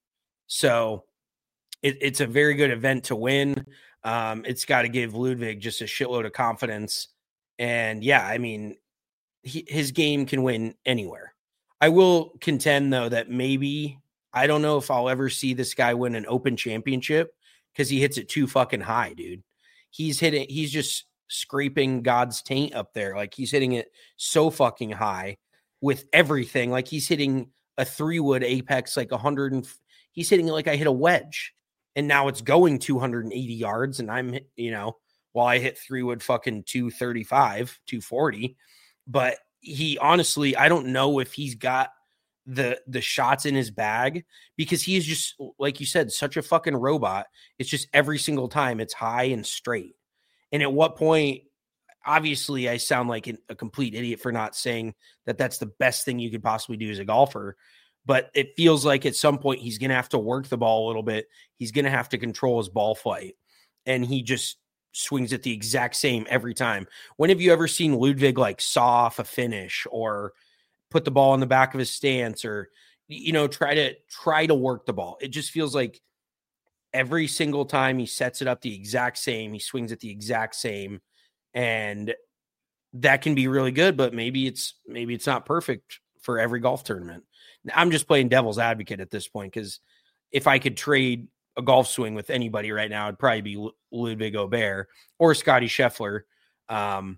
So it, it's a very good event to win. Um, it's got to give Ludwig just a shitload of confidence. And yeah, I mean, he, his game can win anywhere. I will contend though that maybe, I don't know if I'll ever see this guy win an Open championship because he hits it too fucking high, dude. He's hitting, he's just scraping God's taint up there. Like he's hitting it so fucking high with everything. Like he's hitting a three wood apex, like a hundred and he's hitting it like I hit a wedge, and now it's going two hundred eighty yards. And I'm, you know, while I hit three wood fucking two thirty-five, two forty, but he honestly, I don't know if he's got the, the shots in his bag, because he is just, like you said, such a fucking robot. It's just every single time it's high and straight. And at what point, obviously I sound like an, a complete idiot for not saying that that's the best thing you could possibly do as a golfer, but it feels like at some point he's going to have to work the ball a little bit. He's going to have to control his ball flight, and he just swings it the exact same every time. When have you ever seen Ludwig like saw off a finish or put the ball in the back of his stance, or, you know, try to try to work the ball? It just feels like every single time he sets it up the exact same, he swings it the exact same. And that can be really good, but maybe it's, maybe it's not perfect for every golf tournament. I'm just playing devil's advocate at this point, because if I could trade a golf swing with anybody right now, it'd probably be Ludwig Aubert or Scotty Scheffler. Um,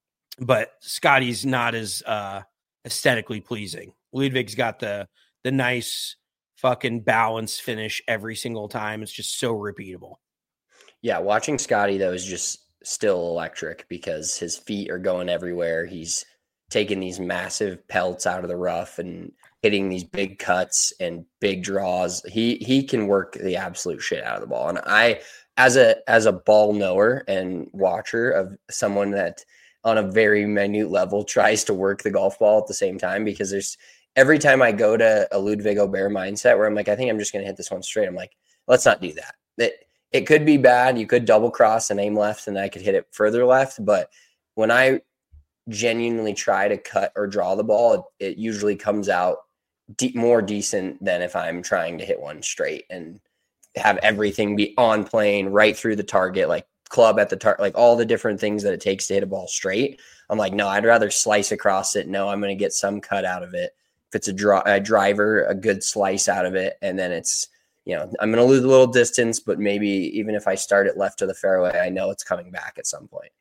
but Scotty's not as uh, aesthetically pleasing. Ludwig's got the the nice fucking balance finish every single time. It's just so repeatable. Yeah, watching Scotty though is just still electric, because his feet are going everywhere. He's taking these massive pelts out of the rough, and hitting these big cuts and big draws. He he can work the absolute shit out of the ball. And I, as a as a ball knower and watcher of someone that on a very minute level tries to work the golf ball at the same time, because there's every time I go to a Ludwig Aubert mindset where I'm like, I think I'm just going to hit this one straight. I'm like, let's not do that. It, it could be bad. You could double cross and aim left and I could hit it further left. But when I genuinely try to cut or draw the ball, it, it usually comes out de- more decent than if I'm trying to hit one straight and have everything be on plane right through the target, like club at the target, like all the different things that it takes to hit a ball straight. I'm like, no, I'd rather slice across it. No, I'm going to get some cut out of it. If it's a, draw, a driver, a good slice out of it. And then it's, you know, I'm going to lose a little distance, but maybe even if I start it left to the fairway, I know it's coming back at some point.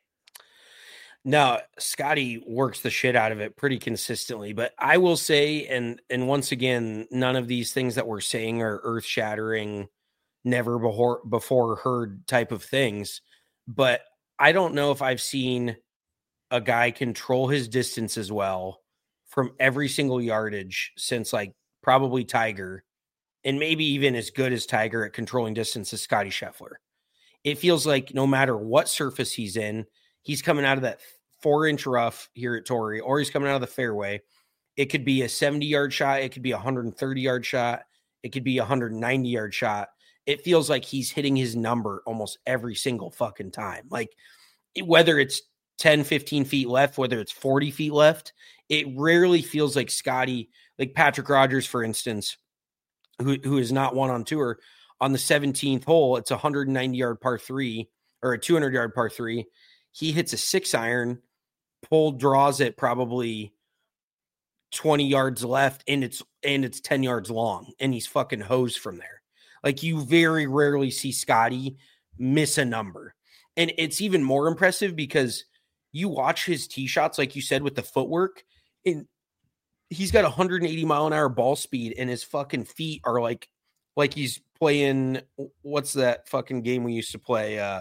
No, Scotty works the shit out of it pretty consistently, but I will say, and and once again, none of these things that we're saying are earth shattering, never before before heard type of things. But I don't know if I've seen a guy control his distance as well from every single yardage since like probably Tiger, and maybe even as good as Tiger at controlling distance as Scotty Scheffler. It feels like no matter what surface he's in, he's coming out of that four inch rough here at Torrey, or he's coming out of the fairway. It could be a seventy yard shot. It could be a one hundred thirty yard shot. It could be a one hundred ninety yard shot. It feels like he's hitting his number almost every single fucking time. Like whether it's ten, fifteen feet left, whether it's forty feet left, it rarely feels like Scotty, like Patrick Rogers, for instance, who, who is not one on tour, on the seventeenth hole, it's a one hundred ninety yard par three or a two hundred yard par three. He hits a six iron, pull draws it probably twenty yards left, and it's and it's ten yards long, and he's fucking hosed from there. Like you very rarely see Scotty miss a number. And it's even more impressive because you watch his tee shots, like you said, with the footwork, and he's got one hundred eighty mile an hour ball speed, and his fucking feet are like, like he's playing, what's that fucking game we used to play? Uh,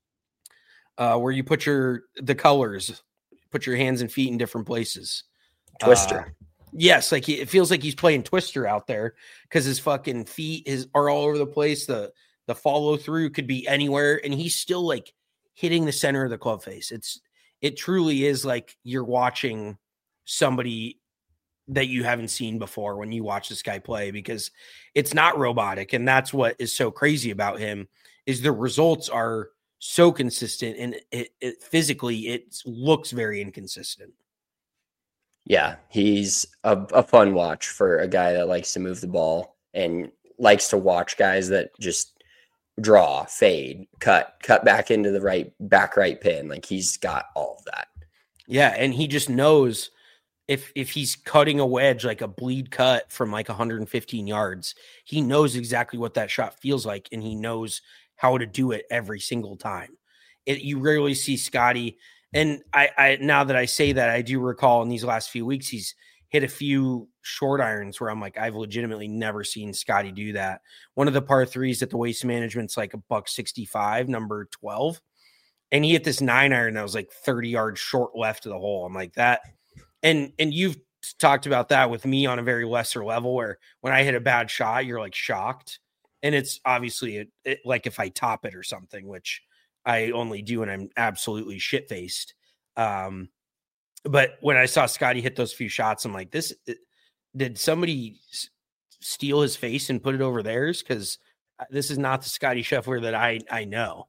uh, where you put your, the colors, put your hands and feet in different places. Twister. Uh, yes. Like he, it feels like he's playing Twister out there because his fucking feet is are all over the place. The, the follow through could be anywhere. And he's still like hitting the center of the club face. It's, it truly is like you're watching somebody that you haven't seen before when you watch this guy play, because it's not robotic. And that's what is so crazy about him, is the results are so consistent, and it, it physically, it looks very inconsistent. Yeah. He's a, a fun watch for a guy that likes to move the ball and likes to watch guys that just draw, fade, cut, cut back into the right back, right pin. Like he's got all of that. Yeah. And he just knows if, if he's cutting a wedge, like a bleed cut from like one hundred fifteen yards, he knows exactly what that shot feels like. And he knows how to do it every single time. It, you rarely see Scotty. And I, I, now that I say that, I do recall in these last few weeks, he's hit a few short irons where I'm like, I've legitimately never seen Scotty do that. One of the par threes at the Waste Management's like a buck sixty-five, number twelve. And he hit this nine iron that was like thirty yards short left of the hole. I'm like that. And, and you've talked about that with me on a very lesser level, where when I hit a bad shot, you're like shocked. And it's obviously it, it, like if I top it or something, which I only do when I'm absolutely shit faced. Um, but when I saw Scotty hit those few shots, I'm like, this, it, did somebody s- steal his face and put it over theirs? Because this is not the Scotty Scheffler that I, I know.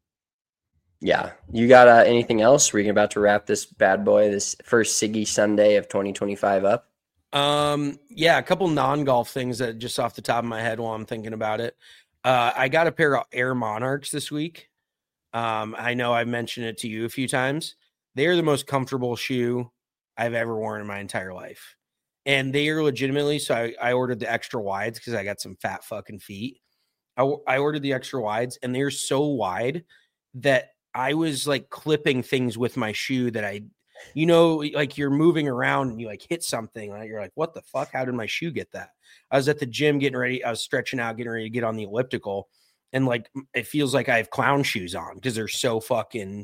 Yeah. You got uh, anything else? We're about to wrap this bad boy, this first Siggy Sunday of twenty twenty-five up. Um, yeah, a couple non-golf things that just off the top of my head while I'm thinking about it. Uh, I got a pair of Air Monarchs this week. Um, I know I've mentioned it to you a few times. They're the most comfortable shoe I've ever worn in my entire life. And they are legitimately, so I, I ordered the extra wides because I got some fat fucking feet. I, I ordered the extra wides, and they're so wide that I was like clipping things with my shoe that I, you know, like you're moving around and you like hit something and you're like, what the fuck? How did my shoe get that? I was at the gym getting ready. I was stretching out, getting ready to get on the elliptical. And like, it feels like I have clown shoes on because they're so fucking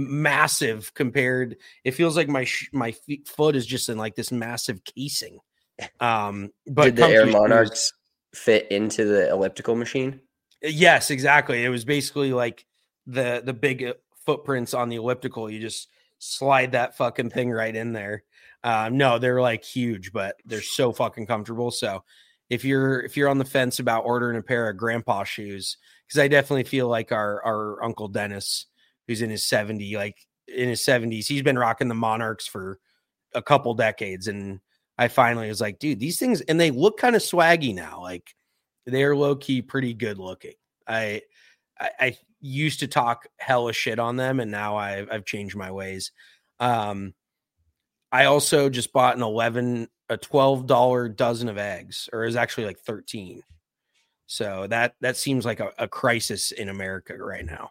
massive compared. It feels like my, sh- my feet, foot is just in like this massive casing. Um, but did the Air comfy Monarchs shoes, fit into the elliptical machine? yes, exactly. It was basically like the the big uh, footprints on the elliptical. You just slide that fucking thing right in there. Um, no, they're like huge, but they're so fucking comfortable. So if you're if you're on the fence about ordering a pair of grandpa shoes, because I definitely feel like our our Uncle Dennis, who's in his seventy, like in his seventies, he's been rocking the Monarchs for a couple decades, and I finally was like, dude, these things, and they look kind of swaggy now. Like they're low key pretty good looking. I, I I used to talk hella shit on them, and now I've I've changed my ways. Um, I also just bought an eleven a twelve dollar dozen of eggs, or it was actually like thirteen. So that that seems like a, a crisis in America right now.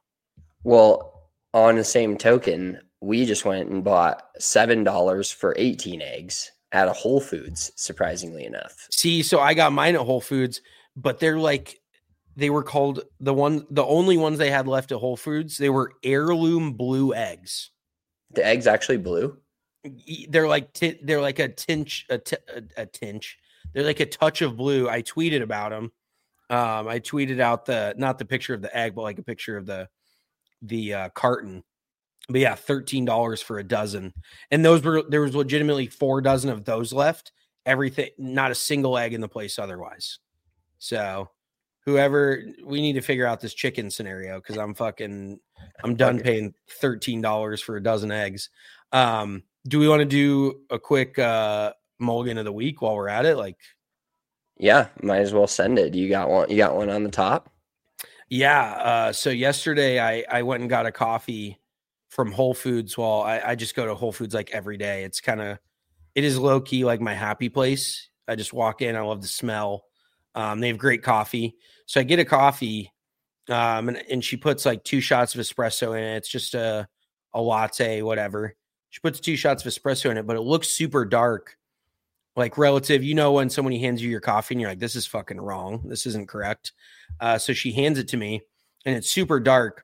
Well, on the same token, we just went and bought seven dollars for eighteen eggs at a Whole Foods, surprisingly enough. See, so I got mine at Whole Foods, but they're like, they were called the one, the only ones they had left at Whole Foods. They were heirloom blue eggs. The eggs actually blue? They're like, t- they're like a tinge, a, t- a, a tinge. They're like a touch of blue. I tweeted about them. Um, I tweeted out the, not the picture of the egg, but like a picture of the, the uh, carton. But yeah, thirteen dollars for a dozen. And those were, there was legitimately four dozen of those left. Everything, not a single egg in the place otherwise. So whoever, we need to figure out this chicken scenario, because I'm fucking, I'm done paying thirteen dollars for a dozen eggs. Um, do we want to do a quick uh, mulligan of the week while we're at it? Like, yeah, might as well send it. You got one, you got one on the top? Yeah. Uh, so yesterday I, I went and got a coffee from Whole Foods. Well, I, I just go to Whole Foods like every day. It's kind of, it is low key like my happy place. I just walk in. I love the smell. Um, they have great coffee. So I get a coffee um, and, and she puts like two shots of espresso in it. It's just a, a latte, whatever. She puts two shots of espresso in it, but it looks super dark. Like relative, you know, when someone hands you your coffee and you're like, this is fucking wrong. This isn't correct. Uh, so she hands it to me and it's super dark.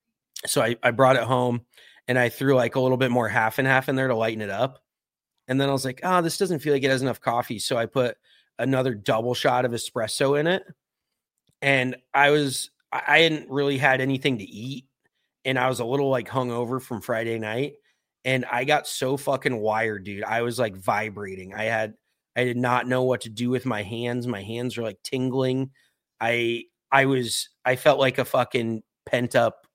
So I, I brought it home and I threw like a little bit more half and half in there to lighten it up. And then I was like, oh, this doesn't feel like it has enough coffee. So I put another double shot of espresso in it. And I was, I hadn't really had anything to eat. And I was a little like hungover from Friday night. And I got so fucking wired, dude. I was like vibrating. I had, I did not know what to do with my hands. My hands were like tingling. I, I was, I felt like a fucking pent up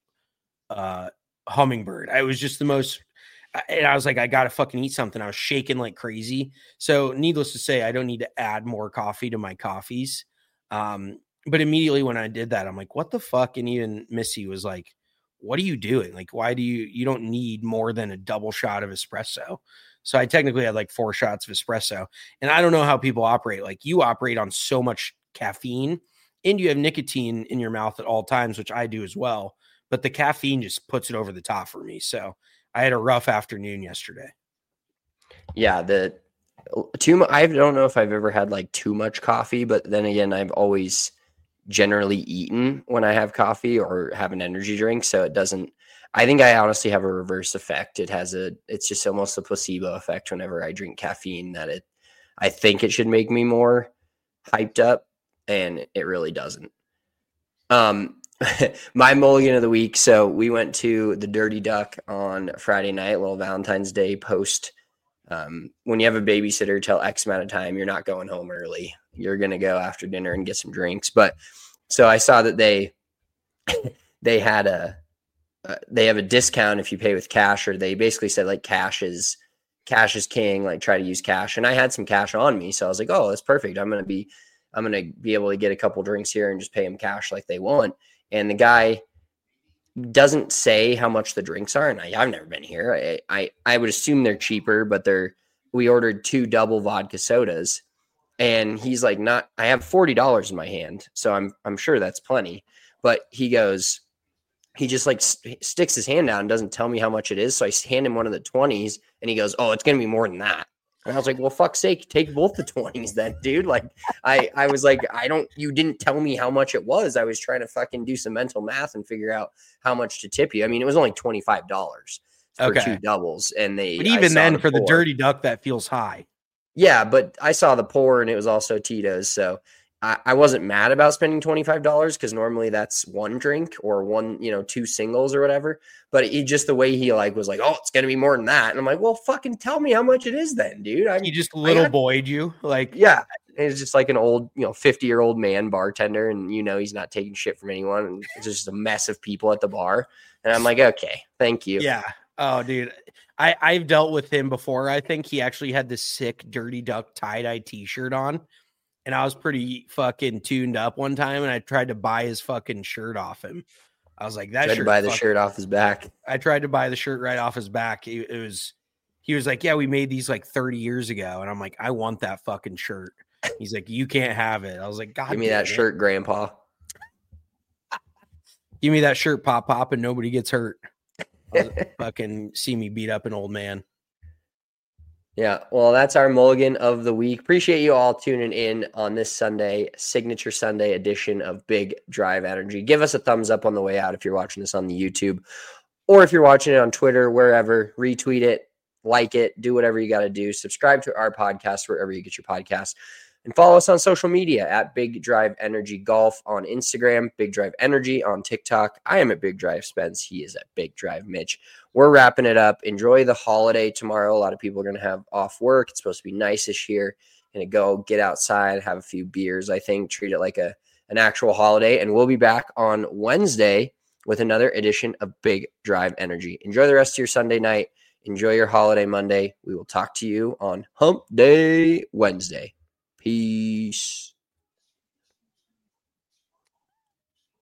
uh, hummingbird. I was just the most, and I was like, I got to fucking eat something. I was shaking like crazy. So needless to say, I don't need to add more coffee to my coffees. Um, but immediately when I did that, I'm like, what the fuck? And even Missy was like, what are you doing? Like, why do you, you don't need more than a double shot of espresso. So I technically had like four shots of espresso, and I don't know how people operate. Like you operate on so much caffeine and you have nicotine in your mouth at all times, which I do as well. But the caffeine just puts it over the top for me. So I had a rough afternoon yesterday. Yeah. The too I don't know if I've ever had like too much coffee, but then again, I've always generally eaten when I have coffee or have an energy drink. So it doesn't, I think I honestly have a reverse effect. It has a, it's just almost a placebo effect whenever I drink caffeine, that it, I think it should make me more hyped up, and it really doesn't. Um, my mulligan of the week. So we went to the Dirty Duck on Friday night, little Valentine's Day post. Um, when you have a babysitter till X amount of time, you're not going home early. You're going to go after dinner and get some drinks. But so I saw that they, they had a, uh, they have a discount if you pay with cash, or they basically said like cash is, cash is king, like try to use cash. And I had some cash on me. So I was like, oh, that's perfect. I'm going to be, I'm going to be able to get a couple drinks here and just pay them cash like they want. And the guy doesn't say how much the drinks are. And I, I've never been here. I, I, I would assume they're cheaper, but they're, we ordered two double vodka sodas, and he's like, not, I have forty dollars in my hand. So I'm, I'm sure that's plenty, but he goes, he just like st- sticks his hand out and doesn't tell me how much it is. So I hand him one of the twenties and he goes, oh, it's going to be more than that. And I was like, well, fuck's sake, take both the twenties then, dude. Like I, I was like, I don't, you didn't tell me how much it was. I was trying to fucking do some mental math and figure out how much to tip you. I mean, it was only twenty-five dollars for okay. two doubles. And they, but even then for the Dirty Duck, that feels high. Yeah, but I saw the pour and it was also Tito's. So I, I wasn't mad about spending twenty-five dollars because normally that's one drink or one, you know, two singles or whatever. But he just the way he like was like, oh, it's going to be more than that. And I'm like, well, fucking tell me how much it is then, dude. I, he just little got, boyed you. Like, yeah, it's just like an old, you know, fifty year old man bartender. And, you know, he's not taking shit from anyone. And it's just a mess of people at the bar. And I'm like, okay, thank you. Yeah. Oh, dude. I, I've dealt with him before. I think he actually had this sick Dirty Duck tie-dye t-shirt on. And I was pretty fucking tuned up one time. And I tried to buy his fucking shirt off him. I was like, that tried shirt. to buy the fucking, shirt off his back. I tried to buy the shirt right off his back. It, it was, he was like, yeah, we made these like thirty years ago. And I'm like, I want that fucking shirt. He's like, you can't have it. I was like, God, give me that it. shirt, Grandpa. Give me that shirt, Pop Pop, and nobody gets hurt. Fucking see me beat up an old man. Yeah, well, that's our mulligan of the week. Appreciate you all tuning in on this Sunday, Signature Sunday edition of Big Drive Energy. Give us a thumbs up on the way out if you're watching this on the YouTube, or if you're watching it on Twitter, wherever. Retweet it, like it, do whatever you got to do. Subscribe to our podcast wherever you get your podcasts. And follow us on social media at Big Drive Energy Golf on Instagram, Big Drive Energy on TikTok. I am at Big Drive Spence. He is at Big Drive Mitch. We're wrapping it up. Enjoy the holiday tomorrow. A lot of people are going to have off work. It's supposed to be nice-ish here. Going to go get outside, have a few beers, I think, treat it like a an actual holiday. And we'll be back on Wednesday with another edition of Big Drive Energy. Enjoy the rest of your Sunday night. Enjoy your holiday Monday. We will talk to you on Hump Day Wednesday. Peace.